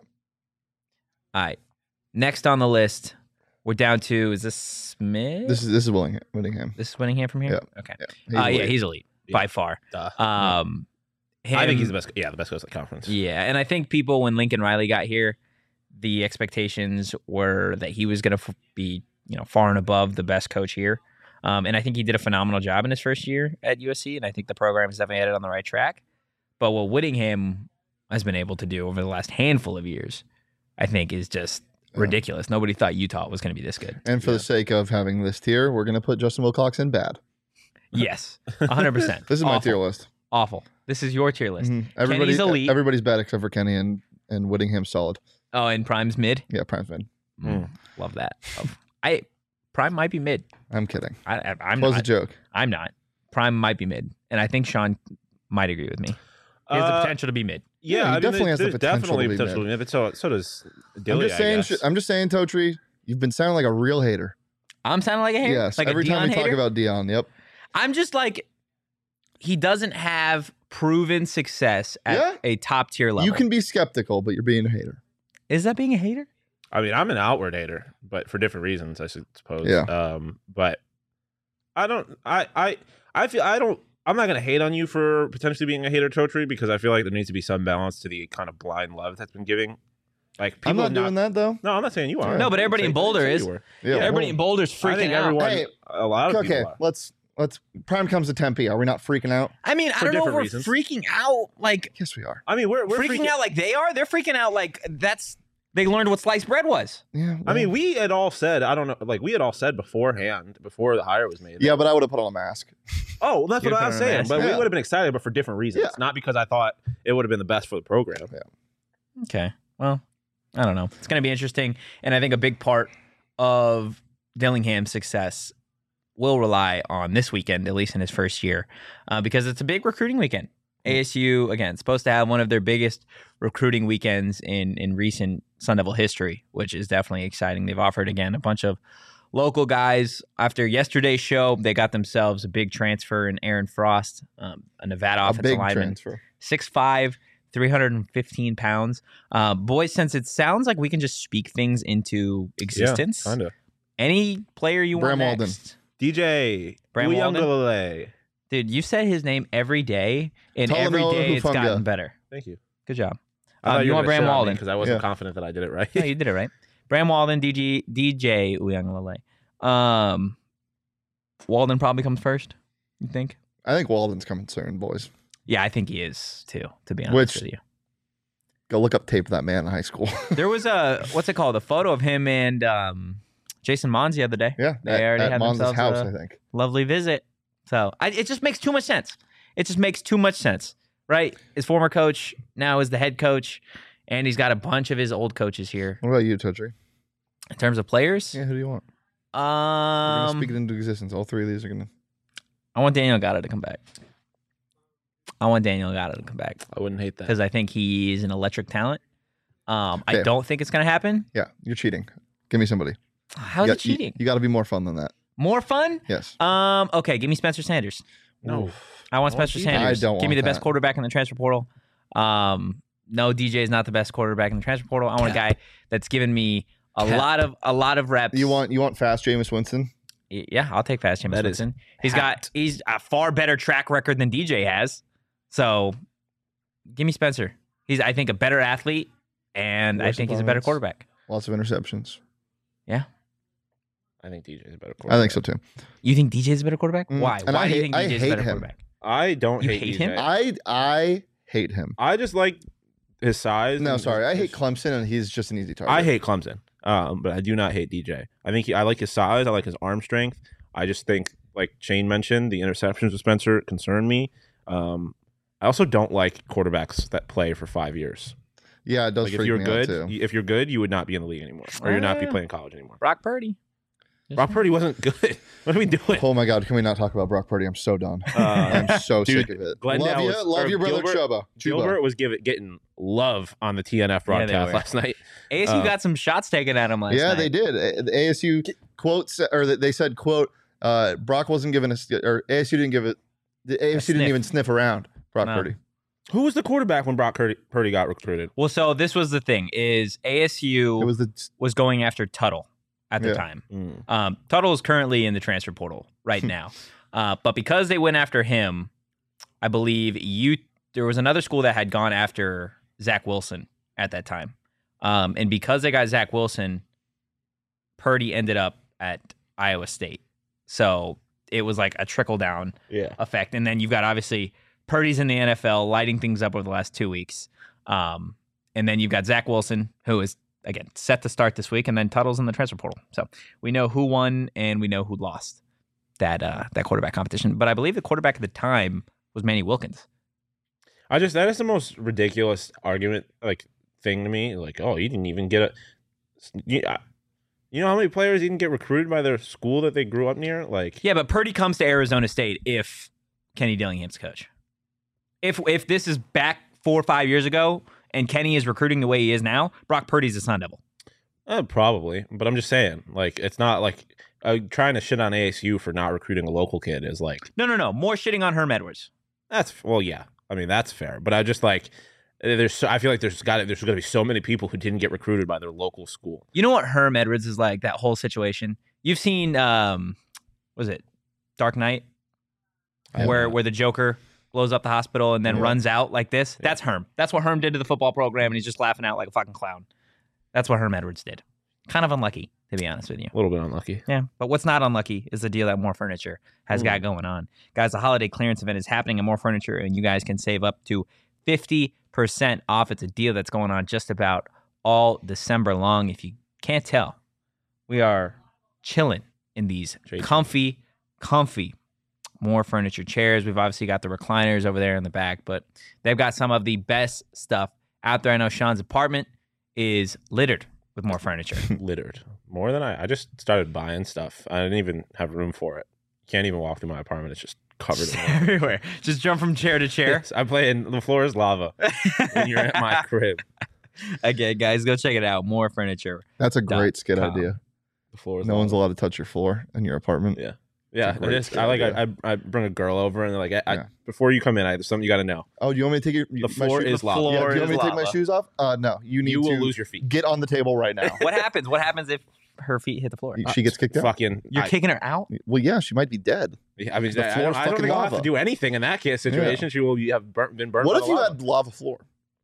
All right. Next on the list, we're down to, is this Smith? This is this is Willingham. Whittingham. This is Whittingham from here? Okay. Yeah. He's uh, yeah, elite. he's elite Yeah. by far. duh. Um, I think him- he's the best. Yeah, the best coach of the conference. Yeah, and I think people, when Lincoln Riley got here, the expectations were that he was going to f- be, you know, far and above the best coach here. Um, and I think he did a phenomenal job in his first year at U S C, and I think the program is definitely headed on the right track. But what Whittingham has been able to do over the last handful of years, I think, is just Yeah. ridiculous. Nobody thought Utah was going to be this good. And for the sake of having this tier, we're gonna put Justin Wilcox in bad. Yes, one hundred percent. This is my Awful. tier list. Awful. This is your tier list. Mhm. Everybody, elite. everybody's bad except for Kenny and and Whittingham's solid. Oh, and Prime's mid. Yeah, Prime's mid. Mm, love that. Love- I Prime might be mid. I'm kidding. I, I, I'm Close not. the joke. I'm not. Prime might be mid, and I think Sean might agree with me. He has the Uh, potential to be mid. Yeah, Yeah, he I mean, definitely there- has the there's potential definitely to be potential to be mid, but so so does Dilly. I'm just I saying. guess. I'm just saying, Totri. You've been sounding like a real hater. I'm sounding like a hater. Yes. like Every a time we Deion talk hater? about Dion, yep. I'm just like, he doesn't have proven success at Yeah. a top tier level. You can be skeptical, but you're being a hater. Is that being a hater? I mean, I'm an outward hater, but for different reasons, I should suppose. Yeah. Um, but I don't. I I I feel I don't. I'm not gonna hate on you for potentially being a hater, Totri, because I feel like there needs to be some balance to the kind of blind love that's been giving. Like people I'm not have doing that though. No, I'm not saying you are. No, but I everybody didn't in say- Boulder I didn't is. say you were. Yeah. Everybody well, in Boulder's freaking I think out. everyone. Hey, a lot of okay, people are. let's let's prime comes to Tempe. Are we not freaking out? I mean, I For don't know if different we're reasons. freaking out like Yes, we are. I mean, we're we're freaking, out like they are. They're freaking out like that's they learned what sliced bread was. Yeah. I mean, well, we had all said. I don't know. Like we had all said beforehand, before the hire was made. yeah, but I would have put on a mask. Oh, well, that's You'd what I put was on a saying. mask. But we Yeah. would have been excited, but for different reasons. Yeah. Not because I thought it would have been the best for the program. Okay. Well, I don't know. It's going to be interesting. And I think a big part of Dillingham's success will rely on this weekend, at least in his first year, uh, because it's a big recruiting weekend. A S U, again, supposed to have one of their biggest recruiting weekends in, in recent Sun Devil history, which is definitely exciting. They've offered, again, a bunch of local guys. After yesterday's show, they got themselves a big transfer in Aaron Frost, um, a Nevada A offensive big lineman. transfer. six five, three hundred fifteen pounds. Uh, boys, since it sounds like we can just speak things into existence, Kind of. any player you Bram want Walden. next. D J Bram Walden? Uyunglele. Dude, you said his name every day, and every Talanoa day it's Hufanga. gotten better. Thank you. Good job. I thought Um, you were want gonna Bram shit on me Walden? because I wasn't Yeah. confident that I did it right. No, you did it right. Bram Walden, D J, D J Uyunglele. Um, Walden probably comes first, you think? I think Walden's coming soon, boys. Yeah, I think he is, too, to be honest Which- with you. Go look up tape of that man in high school. There was a, what's it called, a photo of him and um, Jason Mons the other day. yeah, They at, already at had Mons' themselves house, a- I think. Lovely visit. So I, it just makes too much sense. It just makes too much sense, right? His former coach now is the head coach, and he's got a bunch of his old coaches here. What about you, Totri? In terms of players, Yeah, who do you want? We're gonna um, speak it into existence. All three of these are gonna. I want Daniel Gatta to come back. I want Daniel Gatta to come back I wouldn't hate that. because I think he's an electric talent. Um, I Okay. don't think it's going to happen. Yeah, you're cheating. Give me somebody. How's you it got- you- cheating? You, got to be more fun than that. More fun? Yes. Um, okay, give me Spencer Sanders. No. I want I want Spencer D J. Sanders. I don't Give me want the best that. quarterback in the transfer portal. Um, no, D J is not the best quarterback in the transfer portal. I want a guy that's given me a Cap. lot of a lot of reps. You want you want fast Jameis Winston? Y- Yeah, I'll take fast James That is Winston. He's got packed. he's a far better track record than D J has. So, give me Spencer. He's I think a better athlete, and I Worse think he's a better opponents. quarterback. Lots of interceptions. I think D J is a better I quarterback. think so too. You think D J is a better quarterback? Mm, Why? and Why I do you hate- think I D J is a hate better him. quarterback? I don't You hate, hate D J. him? I I hate him. I just like his size. No, and sorry, I his- hate Clemson, and he's just an easy target. I hate Clemson, um, but I do not hate D J. I think he, I like his size. I like his arm strength. I just think, like Shane mentioned, the interceptions with Spencer concern me. Um, I also don't like quarterbacks that play for five years. Yeah, it does Like if freak you're me good, out too. if you're good, you would not be in the league anymore, or you'd not be Ah. playing college anymore. Brock Purdy. Brock Purdy wasn't good. What are we doing? Oh my God, can we not talk about Brock Purdy? I'm so done. Uh, I'm so dude, sick of it. Glendale love you, was- love or your brother Gilbert- Chuba. Chuba. Gilbert was give, getting love on the T N F Yeah, they broadcast were. last night. A S U Uh, got some shots taken at him last yeah, night. they did. A- The A S U quotes, or they said, "quote uh, Brock wasn't given a, or A S U didn't give it. The A S U didn't sniff. even sniff around Brock No. Purdy." Who was the quarterback when Brock Purdy, Purdy got recruited? Well, so this was the thing: is A S U It was the was going after Tuttle at the Yeah. time. Mm. Um, Tuttle is currently in the transfer portal right now, uh, but because they went after him, I believe you there was another school that had gone after Zach Wilson at that time, um, and because they got Zach Wilson, Purdy ended up at Iowa State. So it was like a trickle down Yeah. effect, and then you've got obviously Purdy's in the N F L, lighting things up over the last two weeks, um, and then you've got Zach Wilson, who is again set to start this week, and then Tuttle's in the transfer portal. So we know who won and we know who lost that uh, that quarterback competition. But I believe the quarterback at the time was Manny Wilkins. I just that is the most ridiculous argument, like thing to me. Like, oh, you didn't even get a. You, I- you know how many players didn't get recruited by their school that they grew up near? Like, Yeah, but Purdy comes to Arizona State if Kenny Dillingham's coach. If if this is back four or five years ago and Kenny is recruiting the way he is now, Brock Purdy's a Sun Devil. eh, probably. But I'm just saying, like, it's not like uh, trying to shit on A S U for not recruiting a local kid is like No, no, no. More shitting on Herm Edwards. that's well, yeah. I mean that's fair, but I just like there's so, I feel like there's got there's going to be so many people who didn't get recruited by their local school. You know what Herm Edwards is like? That whole situation. You've seen, um, what was it Dark Knight, I where haven't. where the Joker blows up the hospital and then Yeah. runs out like this? That's Herm. That's what Herm did to the football program, and he's just laughing out like a fucking clown. That's what Herm Edwards did. Kind of unlucky, to be honest with you. A little bit unlucky. Yeah, but what's not unlucky is the deal that More Furniture has Mm. got going on. Guys, the holiday clearance event is happening at More Furniture, and you guys can save up to fifty percent off. It's a deal that's going on just about all December long. If you can't tell, we are chilling in these Trade comfy, comfy More Furniture chairs. We've obviously got the recliners over there in the back, but they've got some of the best stuff out there. I know Sean's apartment is littered with More Furniture. Littered more than I. I just started buying stuff. I didn't even have room for it. Can't even walk through my apartment. It's just covered Just in everywhere. Just jump from chair to chair. Yes, I play in the floor is lava when you're at my crib. Again, guys, go check it out. More Furniture. That's a Dot great skit com. idea. The floor is No lava. one's allowed to touch your floor in your apartment. Yeah. Yeah, It's a great it is. skit I like. idea. I, I bring a girl over and they're like, I, I, Yeah. before you come in, I, there's something you got to know. Oh, do you want me to take your The my floor shoes- is lava. floor Yeah, do you want is me to take my lava. shoes off? Uh, no. You need You will to lose your feet. get on the table right now. What happens? What happens if her feet hit the floor? she gets kicked out. Fucking. You're I, kicking her out? Well, yeah, she might be dead. I mean, The I, I floor's don't, I don't fucking think I'll have lava. to do anything in that case situation. She will be, have burnt, been burned. What by if the you lava. had lava floor?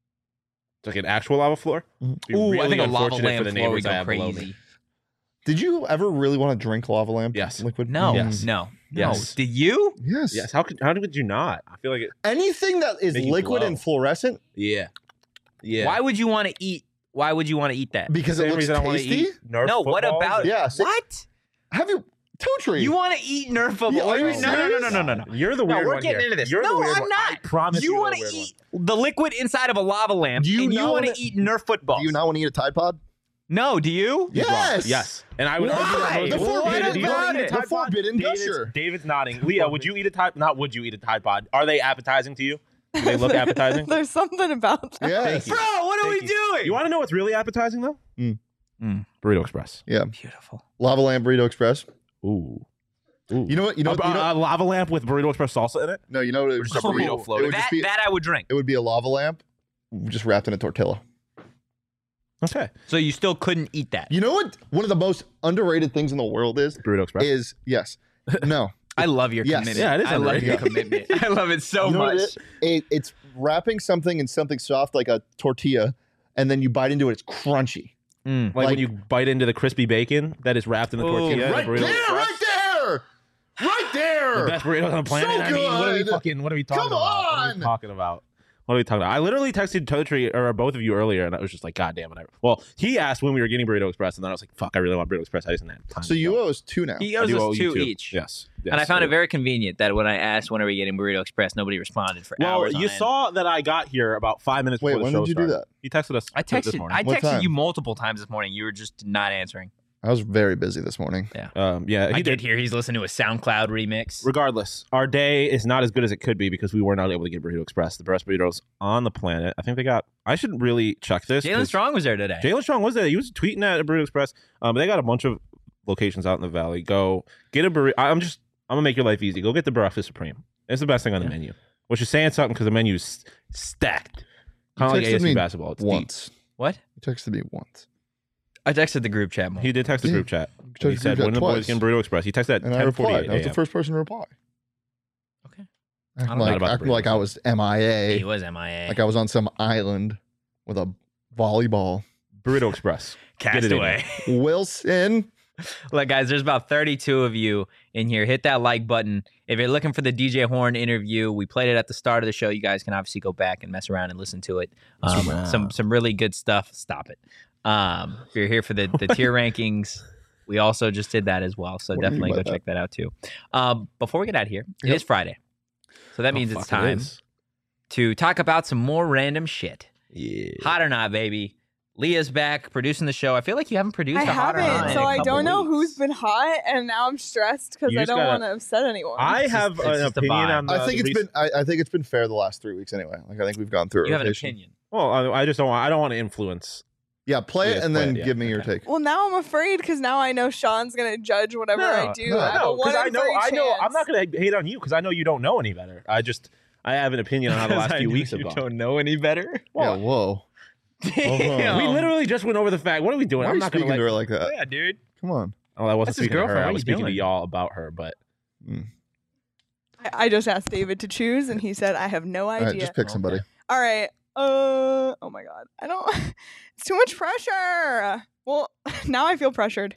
like an actual lava floor? Mhm. Be Ooh, I really think a lava unfortunate lamp for the floor would neighbors I go have below me. crazy. Did you ever really want to drink lava lamp? Yes. Liquid? No, Yes. no, Yes. no. Did you? Yes. Yes. How could? How would you not? I feel like it. Anything that is Make you liquid glow. and fluorescent Yeah. Yeah. Why would you want to eat? Why would you want to eat that? because Same it looks reason I want to tasty. eat Nerf No, what footballs? about- Yeah. see- What? Have you toe tree? You want to eat Nerf football? Yeah, What do you are mean? you No, no, no, no, serious? no, no, no. You're the No, weird we're one getting here. into this. You're no, the weird I'm one. not. I promise you you're want the to weird eat the liquid inside of a lava lamp, Do you and you know want to that- eat Nerf footballs. Do you not want to eat a Tide Pod? No, do you? He's wrong. Yes. Yes. And I would argue Why? that most The people- forbidden David, do you about wanna eat a it. Tide The Pod? forbidden David's, gusher. David's nodding. Leah, would you eat a Tide? Not would you eat a Tide Pod? Are they appetizing to you? Do they look appetizing? There's something about that. Yes. Thank you. Bro, what are Thank we you. doing? You want to know what's really appetizing though? Mm. Mm. Burrito Express. Yeah. Beautiful. Lava lamp burrito express. Ooh. Ooh. You know what? You know. a, you know a lava lamp with burrito express salsa in it. no. You know what? It would just a just be- burrito it floating. would That, just be. that I would drink. It would be a lava lamp, just wrapped in a tortilla. Okay. So you still couldn't eat that. You know what? One of the most underrated things in the world is Burrito Express. is yes. No. I love your Yes. commitment. Yeah, it is I love underrated. your commitment. I love it so You know what much. it is? It, it's wrapping something in something soft like a tortilla, and then you bite into it. It's crunchy. Mm. like, when like- you bite into the crispy bacon that is wrapped in the Ooh, tortilla. in Right the there, burrito express. right there, right there. The best burritos on the planet. So I mean, what are we good. fucking? What are we talking Come about? What are we on. talking about? What are we talking about? I literally texted Totri or both of you earlier, and I was just like, God damn it! I, well, he asked when we were getting Burrito Express, and then I was like, Fuck, I really want Burrito Express. I just didn't have time. So to you go. owe us two now. He I owes do owe us you two each. Yes, yes. And I found So- it very convenient that when I asked when are we getting Burrito Express, nobody responded for Well, hours. on you end. saw that I got here about five minutes Wait, before the when show did you do started. that? He texted us I this texted. morning. I What texted time? you multiple times this morning. You were just not answering. I was very busy this morning. um, yeah, he I did. did hear he's listening to a SoundCloud remix. Regardless, our day is not as good as it could be because we were not able to get Burrito Express, the best burritos on the planet. I think they got. I should really check this. Jalen 'cause Strong was there today. Jalen Strong was there. He was tweeting at Burrito Express. Um, but they got a bunch of locations out in the valley. Go get a burrito. I'm just. I'm gonna make your life easy. Go get the breakfast supreme. It's the best thing on the Yeah. menu. Which is saying something because the menu is stacked. Kind of like texted A S U me basketball. It's deep. Once. What? You texted me once. I texted the group chat more. He did text the Yeah. group chat. texted He the said, group "When chat the boys twice. getting Burrito Express?" He texted at And I ten replied. forty-eight I was the a.m. first person to reply. Okay. Acting don't know like, about the acting like burritos. I was M I A. He was M I A. Like I was on some island with a volleyball. Burrito Express. Get it in. Castaway. Wilson. Look, guys, there's about thirty-two of you in here. Hit that like button. If you're looking for the D J Horn interview, we played it at the start of the show. You guys can obviously go back and mess around and listen to it. Um, Wow. Some some really good stuff. Stop it. Um, if you're here for the, the tier rankings, we also just did that as well. So What do you mean definitely by go that? check that out too. Um, before we get out of here, it Yep. is Friday. So that Oh, means fuck, it's it time is. to talk about some more random shit. Yeah. Hot or not, baby. Leah's back producing the show. I feel like you haven't produced I a hot or not haven't, in so a I couple don't know weeks. who's been hot, and now I'm stressed because You I just don't gotta- want to upset anyone. I It's have just- it's an just a opinion vibe. on the. I think the it's rec- been. I, I think it's been fair the last three weeks anyway. Like I think we've gone through. A You have an rotation. opinion. Well, I, I just don't want. I don't want to influence Yeah, play Yeah, it and play then it, yeah, give me your okay. take. Well, now I'm afraid because now I know Sean's gonna judge whatever I do. no, I have a No, one because I in know, three I know, I'm chance. not going to hate on you because I know you don't know any better. I just, I have an opinion on how the last few weeks have you gone. don't know any better. Yeah, Well, whoa. Damn. we literally just went over the fact. What are we doing? Why are I'm you not going speaking to to let. her like that? Yeah, dude. Come on. Oh, I wasn't That's his speaking to her. girlfriend. I What was are you speaking to doing? y'all about her, but Mm. I, I just asked David to choose, and he said, "I have no All idea." right, just pick somebody. All right. Uh. Oh my God. I don't. It's too much pressure. Well, now I feel pressured.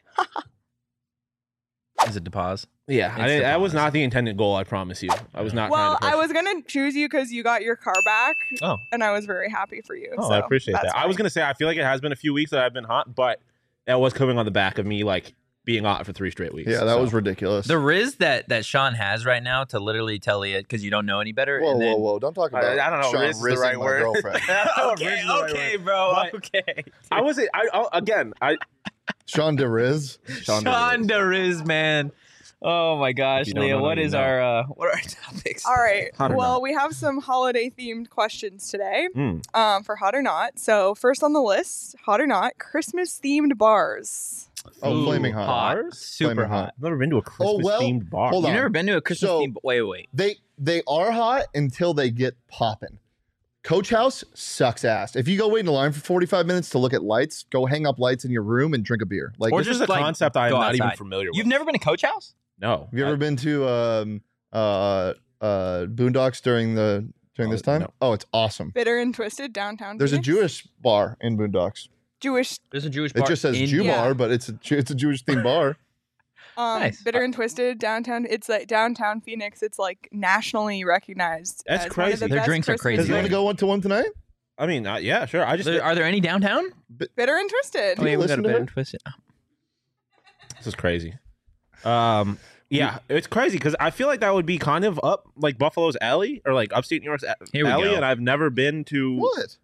Is it to pause? yeah, It's I, the that was pause. not the intended goal. I promise you. I was not. Well, trying to I was gonna choose you because you got your car back, Oh. and I was very happy for you. Oh, so I appreciate that's that. I was why. gonna say I feel like it has been a few weeks that I've been hot, but that was coming on the back of me like being hot for three straight weeks. Yeah, that so. was ridiculous. The riz that that Sean has right now to literally tell you because you don't know any better. Whoa, and then, whoa, whoa! Don't talk about. I, I don't know. Sean Riz is the rizzing right my word. girlfriend. okay, Riz is the right okay, word. bro. But okay. I wasn't. I, I again. I Sean DeRiz. Sean Sean DeRiz. DeRiz, man. Oh my gosh, If you don't Leah. know, What you is know. our uh, what are our topics? All right. Hot or Well, not? we have some holiday themed questions today. Mm. Um, for hot or not. So first on the list, hot or not, Christmas themed bars. Oh, Ooh, flaming hot. Bars? super Flaming hot. hot. I've never been to a Christmas well, themed bar. hold You've on. never been to a Christmas So- theme? Wait, wait. They they are hot until they get popping. Coach House sucks ass. If you go wait in a line for forty-five minutes to look at lights, go hang up lights in your room and drink a beer. Like, Or This just, is a like, concept I'm go not even outside. familiar You've with. never been to Coach House? No. have you ever I- been to um uh uh Boondocks during the during Oh, this time? no. Oh, it's awesome. Bitter and Twisted downtown. There's a Phoenix. Jewish bar in Boondocks. Jewish There's a Jewish It bar. just says in- Jew Yeah. bar, but it's a Jew- it's a Jewish themed bar. um Nice. Bitter and Twisted downtown. It's like downtown Phoenix. It's like nationally recognized. That's as one of crazy. the Their best drinks are Christmas crazy. Do you drinks. want to go one to one tonight? I mean, uh, yeah, sure. I just. There- Are there any downtown? Bitter and Twisted. Oh, yeah. we listen got a to bit her? and twisted. This is crazy. Um. Yeah, it's crazy because I feel like that would be kind of up like Buffalo's alley or like upstate New York's a- Here we alley, go. and I've never been to. What?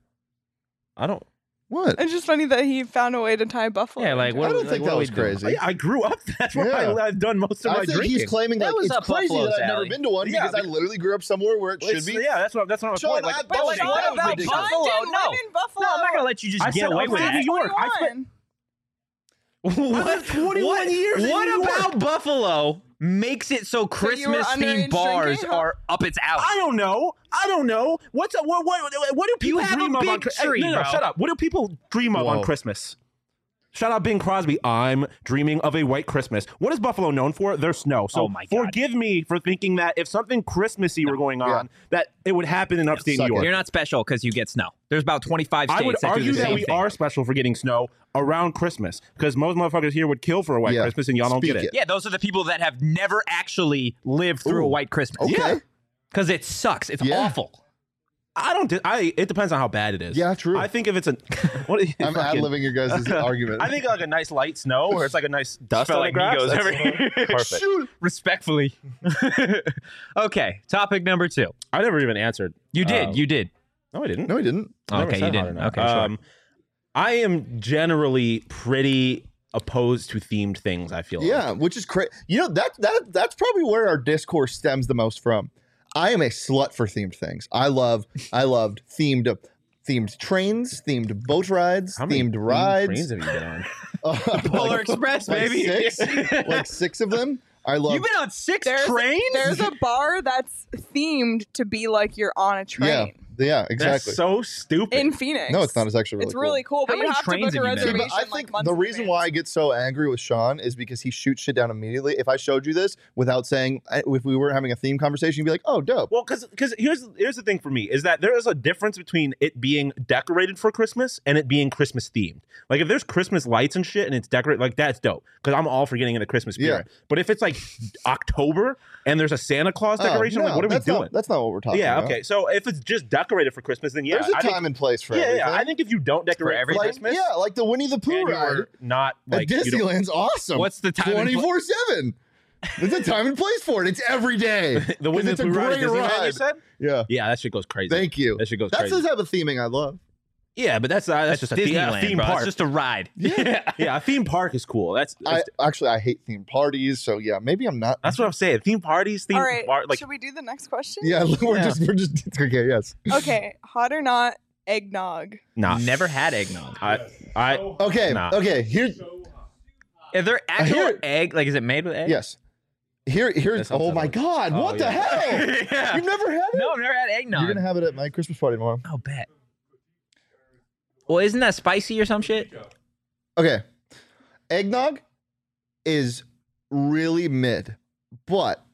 I don't. What? It's just funny that he found a way to tie Buffalo. Yeah, like into what? I don't like, think what that are we was doing? crazy. I, I grew up. That's where Yeah. I, I've done most of I my think drinking. he's claiming That like was it's up crazy Buffalo's that I've alley. never been to one Yeah, because I because- literally grew up somewhere where it should It's- be. Yeah, that's what. That's what my Sean, point. Like, I- But Buffalo, Sean, that was about ridiculous. Sean Buffalo, didn't no. live in Buffalo. No, I'm not gonna let you just I get said away I with was in that. New York. I spent- twenty-one. What? twenty-one what, years in What New York. about Buffalo makes it so you were Christmas underage themed bars drinking, huh? are up its alley? I don't know. I don't know. What's a, what, what what do You people have a dream of on big Christmas? tree, no, no, bro. shut up. What do people dream of Whoa. on Christmas? Shout out Bing Crosby. I'm dreaming of a white Christmas. What is Buffalo known for? Their snow. So Oh my God. forgive me for thinking that if something Christmassy were going on, that it would happen in upstate suck New it. York. You're not special because you get snow. There's about twenty-five states I would that do argue the that same we thing. are special for getting snow around Christmas because most motherfuckers here would kill for a white Yeah. Christmas and y'all don't Speak get it. it. Yeah, those are the people that have never actually lived through a Ooh. white Christmas. Okay. Because it sucks. It's Yeah. awful. I don't. di- I. It depends on how bad it is. Yeah, true. I think if it's a. What are you I'm ad fucking- libbing your guys' argument. I think like a nice light snow where it's like a nice dust Felt on like the grass. Migos That's over here. perfect. Shoot. Respectfully. Okay, topic number two. I never even answered. You did. Uh, you did. No, I didn't. No, he didn't. I never Okay, said you hot or didn't. not. Okay, sure. Um, I am generally pretty opposed to themed things. I feel. Yeah, like. which is crazy. You know that that that's probably where our discourse stems the most from. I am a slut for themed things. I love I loved themed themed trains, themed boat rides, How many themed themed rides. trains have you been on? Uh, Polar like- Express, like baby. Six, like six of them. I love. You've been on six There's, trains? there's a bar that's themed to be like you're on a train yeah, yeah, That's exactly. so stupid. in Phoenix. No, it's not. It's actually really It's cool. really cool, How but you many have to trains book a have you been on? See, reservation. but I think like months the in reason advance. why I get so angry with Sean is because he shoots shit down immediately. If I showed you this without saying, if we were having a theme conversation, you'd be like, "Oh, dope." Well, because because here's here's the thing for me is that there is a difference between it being decorated for Christmas and it being Christmas themed. Like if there's Christmas lights and shit and it's decorated, like that's dope because I'm all for getting in the Christmas spirit. But if it's like October and there's a Santa Claus Oh, decoration, I'm no, like what are we that's doing? Not, that's not what we're talking yeah, about. okay. So if it's just decorated for Christmas, then yeah, There's a I think- time and place for yeah, everything. yeah. I think if you don't decorate for everything? like, Christmas, yeah, like the Winnie the Pooh and ride you're not like at you don't- Disneyland's awesome. What's the time and pla- twenty-four seven? There's a time and place for it. It's every day. the Winnie it's the a Pooh ride, at great Disneyland, you ride. said? Yeah. Yeah, that shit goes crazy. Thank you. That shit goes That's crazy. the type of theming I love. Yeah, but that's uh, that's, That's just a, theme, a Disneyland, theme bro. park. It's just a ride. yeah, yeah, a theme park is cool. That's I that's, actually I hate theme parties, so yeah, maybe I'm not. that's what I'm saying. Theme parties, theme All right, park, like should we do the next question? Yeah, we're Yeah. just we're just okay. Yes. Okay, hot or not, eggnog. Nah, Never had eggnog. I, I, Okay, Nah. okay. Here, Is there actual hear- egg? Like, is it made with egg? yes. Here, here's. That sounds Oh my like- God! Oh, What the yeah. hell? Yeah. You've never had it? No, I've never had eggnog. You're gonna have it at my Christmas party tomorrow. Oh, bet. Well, isn't that spicy or some shit? Okay, eggnog is really mid, but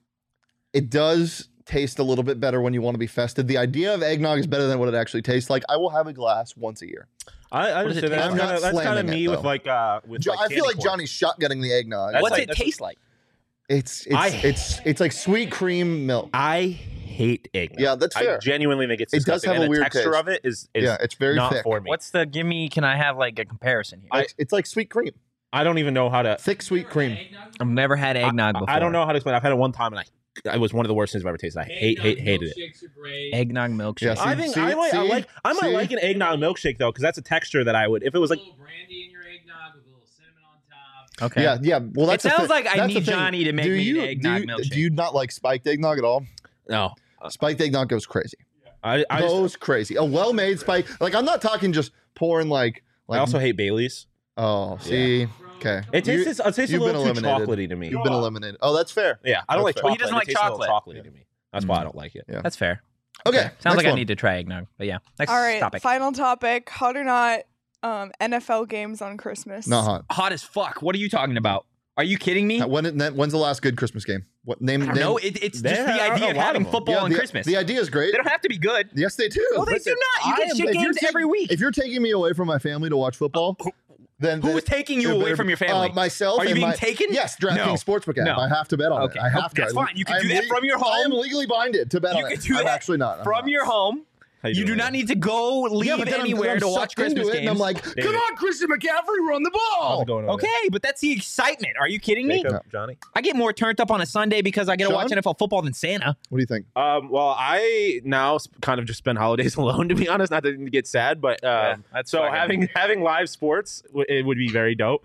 it does taste a little bit better when you want to be festive. The idea of eggnog is better than what it actually tastes like. I will have a glass once a year. I, I What does it understand that. taste That's like? kind of that's I'm not kind of slamming me it, with though. like uh with Jo- like I feel candy like corn. Johnny's shotgunning the eggnog. That's What's like- it that's- taste like? It's it's I- it's it's like sweet cream milk. I hate eggnog. Yeah, that's I fair. genuinely think it's It does disgusting, have and a the weird texture taste. of it is, is Yeah, it's very not thick. for me. What's the? Give me. Can I have like a comparison here? I- It's, it's like sweet cream, I don't even know how to. thick sweet cream. I've never had eggnog I, before. I don't know how to explain. I've had it one time, and I it was one of the worst things I've ever tasted. I hate hate hated it. Milkshakes are great. Eggnog milkshake. Yeah, see- I think I might I see? like I might See? like an eggnog milkshake though, because that's a texture that I would if it was Put like. a little brandy in your eggnog with a little cinnamon on top. Okay. Yeah, yeah. Well, that's It the sounds thi- like I that's need the thing. Johnny to make do me an you, eggnog do you, milkshake. Do you not like spiked eggnog at all? No, Spiked eggnog goes crazy. I I, just, goes crazy. A well-made spike. Like I'm not talking just pouring like. like I also hate Bailey's. Oh, see. Okay. It You- tastes it tastes a you've been little too eliminated. chocolatey to me. You've been eliminated. Oh, that's fair. Yeah, I don't like That's fair. chocolate. Well, he doesn't It like tastes a little chocolate. chocolatey to me. That's why I don't like it. Yeah. That's fair. Okay. Sounds next like I one. need to try eggnog. But yeah. Next All right, topic. final topic: hot or not, um, N F L games on Christmas. Not hot. Hot as fuck. What are you talking about? Are you kidding me? Uh, When, when's the last good Christmas game? What name? I don't name know. It, it's just There the are idea a of lot having of them. football Yeah, on the, Christmas. The idea is great. They don't have to be good. Yes, they do. No, they do not. You I get am- shit If you're games taking- every week. If you're taking me away from my family to watch football, then Who then- is taking you there away better from be- your family? Uh, myself. Are you and being my, taken? Yes, DraftKings No. Sportsbook app. No. I have to bet on Okay. it. I have to. That's fine. You can I do am that le- from your I am home. legally binded to bet You on can it. do I'm that actually not. I'm From not. your home. How You doing, do not man? need to go leave Yeah, but then I'm- anywhere I'm to watch sucked into Christmas it, games. and I'm like, David. come on, Christian McCaffrey, run the ball. How's it going over Okay, but that's the excitement. Are you kidding there? me? Jacob, Johnny. I get more turned up on a Sunday because I get to watch Sean? N F L football than Santa. What do you think? Um, well, I now sp- kind of just spend holidays alone, to be honest. Not to get sad, but um, Yeah, that's so fucking- having having live sports, w- it would be very dope.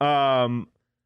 Um,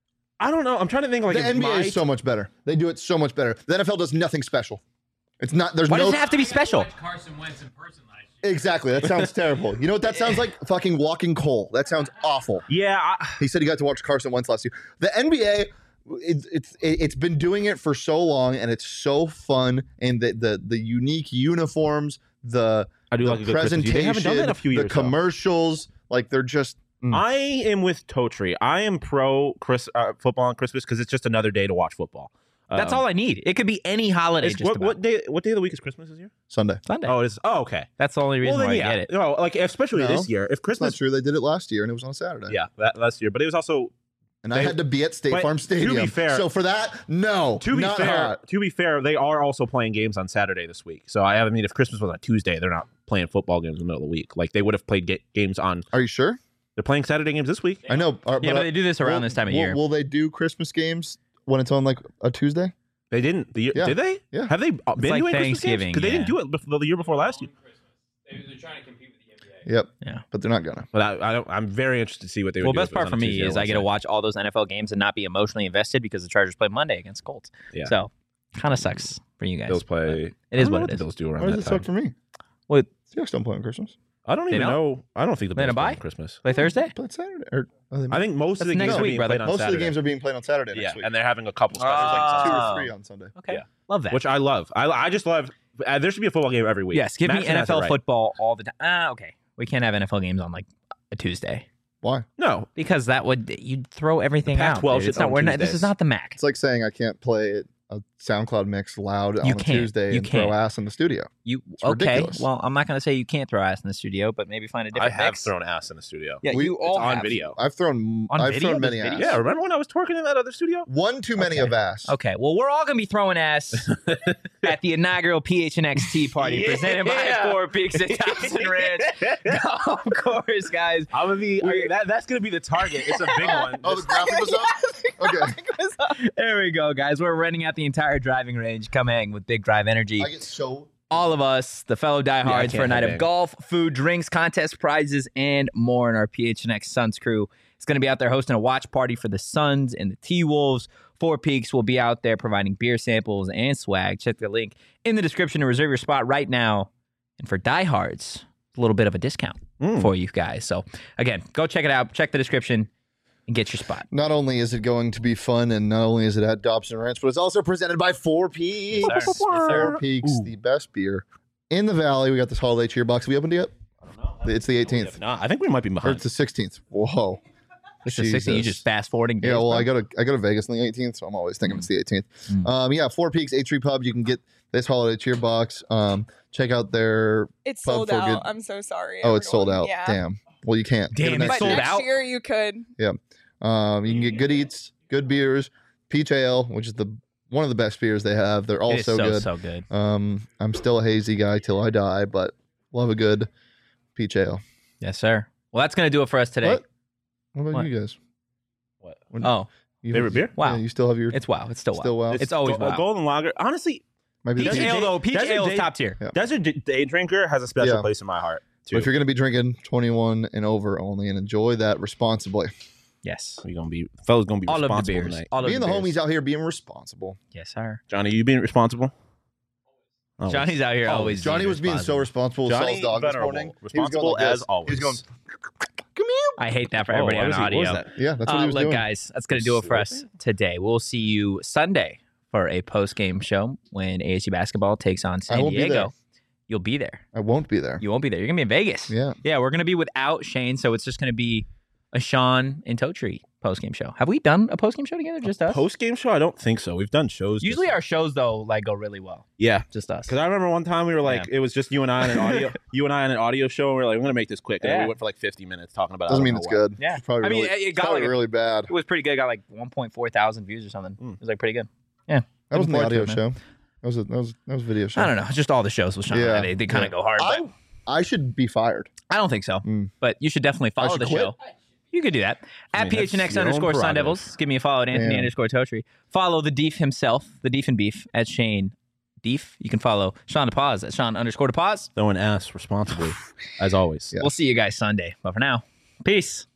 I don't know. I'm trying to think like The if N B A my is so much better. They do it so much better. The N F L does nothing special. It's not. There's Why no. does it have to be I got special? watch Carson Wentz in person last year. Exactly. That sounds terrible. You know what that sounds like? Fucking walking coal. That sounds awful. yeah. I, He said he got to watch Carson Wentz last year. The N B A, it's it's it's been doing it for so long, and it's so fun. And the the the unique uniforms, the I do the like a good Christmas. They presentation, haven't done that in a few the years. though. commercials, like they're just. Mm. I am with Totri. I am pro Chris uh, football on Christmas because it's just another day to watch football. That's Um, all I need. It could be any holiday. it's- Just what, about. what day? What day of the week is Christmas this year? Sunday. Sunday. Oh, it is. Oh, okay. That's the only reason Well, why then, I yeah. get it. No, like especially No. this year. If That's not Christmas, true. They did it last year, and it was on a Saturday. yeah, that last year. But it was also And I They- had to be at State but Farm to Stadium. be fair- so for that, no. to be not fair. hot. To be fair, they are also playing games on Saturday this week. So I, I mean, if Christmas was on Tuesday, they're not playing football games in the middle of the week. Like they would have played ga- games on. Are you sure? They're playing Saturday games this week. I know. uh, Yeah, but uh, they do this around will- this time of will, year. Will they do Christmas games when it's on like a Tuesday? They didn't. The year, Yeah. Did they? Yeah. Have they uh, been like doing Christmas Thanksgiving, Because they didn't yeah. do it before, the year before last year. Christmas. They, they're trying to compete with the N B A. Yep. Yeah. But they're not gonna. But I, I don't, I'm very interested to see what they would Well, do. best if it was part on for a me Tuesday or is I get to Wednesday. watch all those N F L games and not be emotionally invested because the Chargers play Monday against Colts. Yeah. So kind of sucks for you guys. Bills play. It is I don't know what it the is. Bills do around Why does that it time. suck for me? Well, Seahawks don't play on Christmas. I don't They even don't? know. I don't think the They Bills don't play buy? on Christmas. play Thursday? Play Saturday. Or, oh, they I think most of That's the next games are week, being brother. played on most Saturday. of the games are being played on Saturday yeah, next week. and they're having a couple There's special like two Ah. or three on Sunday. Okay. Yeah. Love that. which I love. I, I just love. Uh, there should be a football game every week. yes, give me Madison N has F it L right. football all the time. Ah, okay. We can't have N F L games on like a Tuesday Why? No, because that would you'd throw everything The Pac out. twelve dude. It's shit's not, on we're not, this is Tuesdays. not the Mac. It's like saying I can't play a SoundCloud mix loud on You a can't. Tuesday You and throw can't. ass in the studio. You It's okay? ridiculous. Well, I'm not going to say you can't throw ass in the studio, but maybe find a I different have mix. thrown ass in the studio. Yeah, We- you all it's on have. video. I've thrown. On I've video? thrown many There's ass. video? Yeah, remember when I was twerking in that other studio? One too many Okay. of ass. Okay, well, we're all going to be throwing ass at the inaugural P H N X Tea Party Yeah. presented by Four Peaks at Thompson Ranch. Of course, guys. I'm gonna be. We- that, that's gonna be the target. It's a big one. Oh, the graphic was up. Okay. There we go, guys. We're renting out the entire driving range. Come hang with Big Drive Energy. I get so. All of us, the fellow diehards, can't for a night have of egg. golf, food, drinks, contest prizes, and more in our P H N X Suns crew. It's going to be out there hosting a watch party for the Suns and the T-Wolves. Four Peaks will be out there providing beer samples and swag. Check the link in the description to reserve your spot right now. And for diehards, a little bit of a discount Mm. for you guys. So again, go check it out. Check the description and get your spot. Not only is it going to be fun, and not only is it at Dobson Ranch, but it's also presented by Four Peaks. Yes, sir. Yes, sir. Four Peaks, Ooh. the best beer in the valley. We got this holiday cheer box. Have we opened it yet? I don't know. It's the eighteenth. If not, I think we might be Or behind. it's the sixteenth. Whoa. It's the sixteenth. You Jesus. just fast forwarding. Yeah, days, well, bro. I go to I go to Vegas on the eighteenth, so I'm always thinking it's the eighteenth. Mm. Um, yeah, Four Peaks H three Pub. You can get this holiday cheer box. Um, check out their. It's Pub sold for out. good- I'm so sorry. Oh, it's sold everyone. out. Yeah. Damn. Well, you can't. Get it Damn, next it's But sold year. next out? year you could. Um, you can get good eats, good beers, peach ale, which is the one of the best beers they have. They're all It is so, so good. so good. Um, I'm still a hazy guy till I die, but love a good peach ale. Yes, sir. Well, that's gonna do it for us today. What? What about What? you guys? What? What- Oh, you Favorite beer? Wow. Yeah, you still have your it's wow. It's still wow. still wow. It's always Go- wow. Golden Lager. Honestly, Maybe Peach the Desert ale Day- though. Peach Desert ale is Day- top tier. Yeah. Desert D- Day Drinker has a special Yeah. place in my heart too. But if you're going to be drinking twenty-one and over only, and enjoy that responsibly. Yes. we're gonna be, fellas, gonna be All of the responsible beers. tonight. All of Being the, beers. homies out here being responsible. Yes, sir. Johnny, you being responsible? Oh, Johnny's out here Oh, always. Johnny being was being so responsible with Johnny Saul's dog this venerable. morning. He was Responsible going like as this. always. He was going, I hate that for Oh, everybody what on was he- what audio. was that? yeah, that's what Uh, he was look, doing. guys, that's going to do it for us today. We'll see you Sunday for a post game show when A S U basketball takes on I San won't be there. Diego. You'll be there. I won't be there. You won't be there. You're going to be in Vegas. Yeah. Yeah, we're going to be without Shane, so it's just going to be a Sean and Totri post game show. Have we done a post game show together? Just us? Post game show? I don't think so. We've done shows. just- Usually our shows though like go really well. yeah. Just us. Because I remember one time we were like, it was just you and I on an audio, you and I on an audio show, and we were like, I'm gonna make this quick. And then Yeah. we went for like fifty minutes talking about. Doesn't I mean don't it's know what. good. Yeah. It's probably I mean, really, it it's got probably like a- really bad. It was pretty good. It got like one point four thousand views or something. Mm. It was like pretty good. Yeah. That was Looking an forward to audio it, man. show. That was a that was that was a video show. I don't know. Just all the shows with Sean. Yeah. They, they kind Yeah. of go hard. I, But I should be fired. I don't think so. Mm. But you should definitely follow should the quit? show. You could do that. I At mean, P H N X that's your own underscore Sun prerogative. Devils. Give me a follow at Anthony Yeah. underscore Totri. Follow the Deef himself, the Deef and Beef, at Shane Deef. You can follow Sean DePaz at Sean underscore DePaz. Throwing ass responsibly, as always. Yeah. We'll see you guys Sunday. But for now, peace.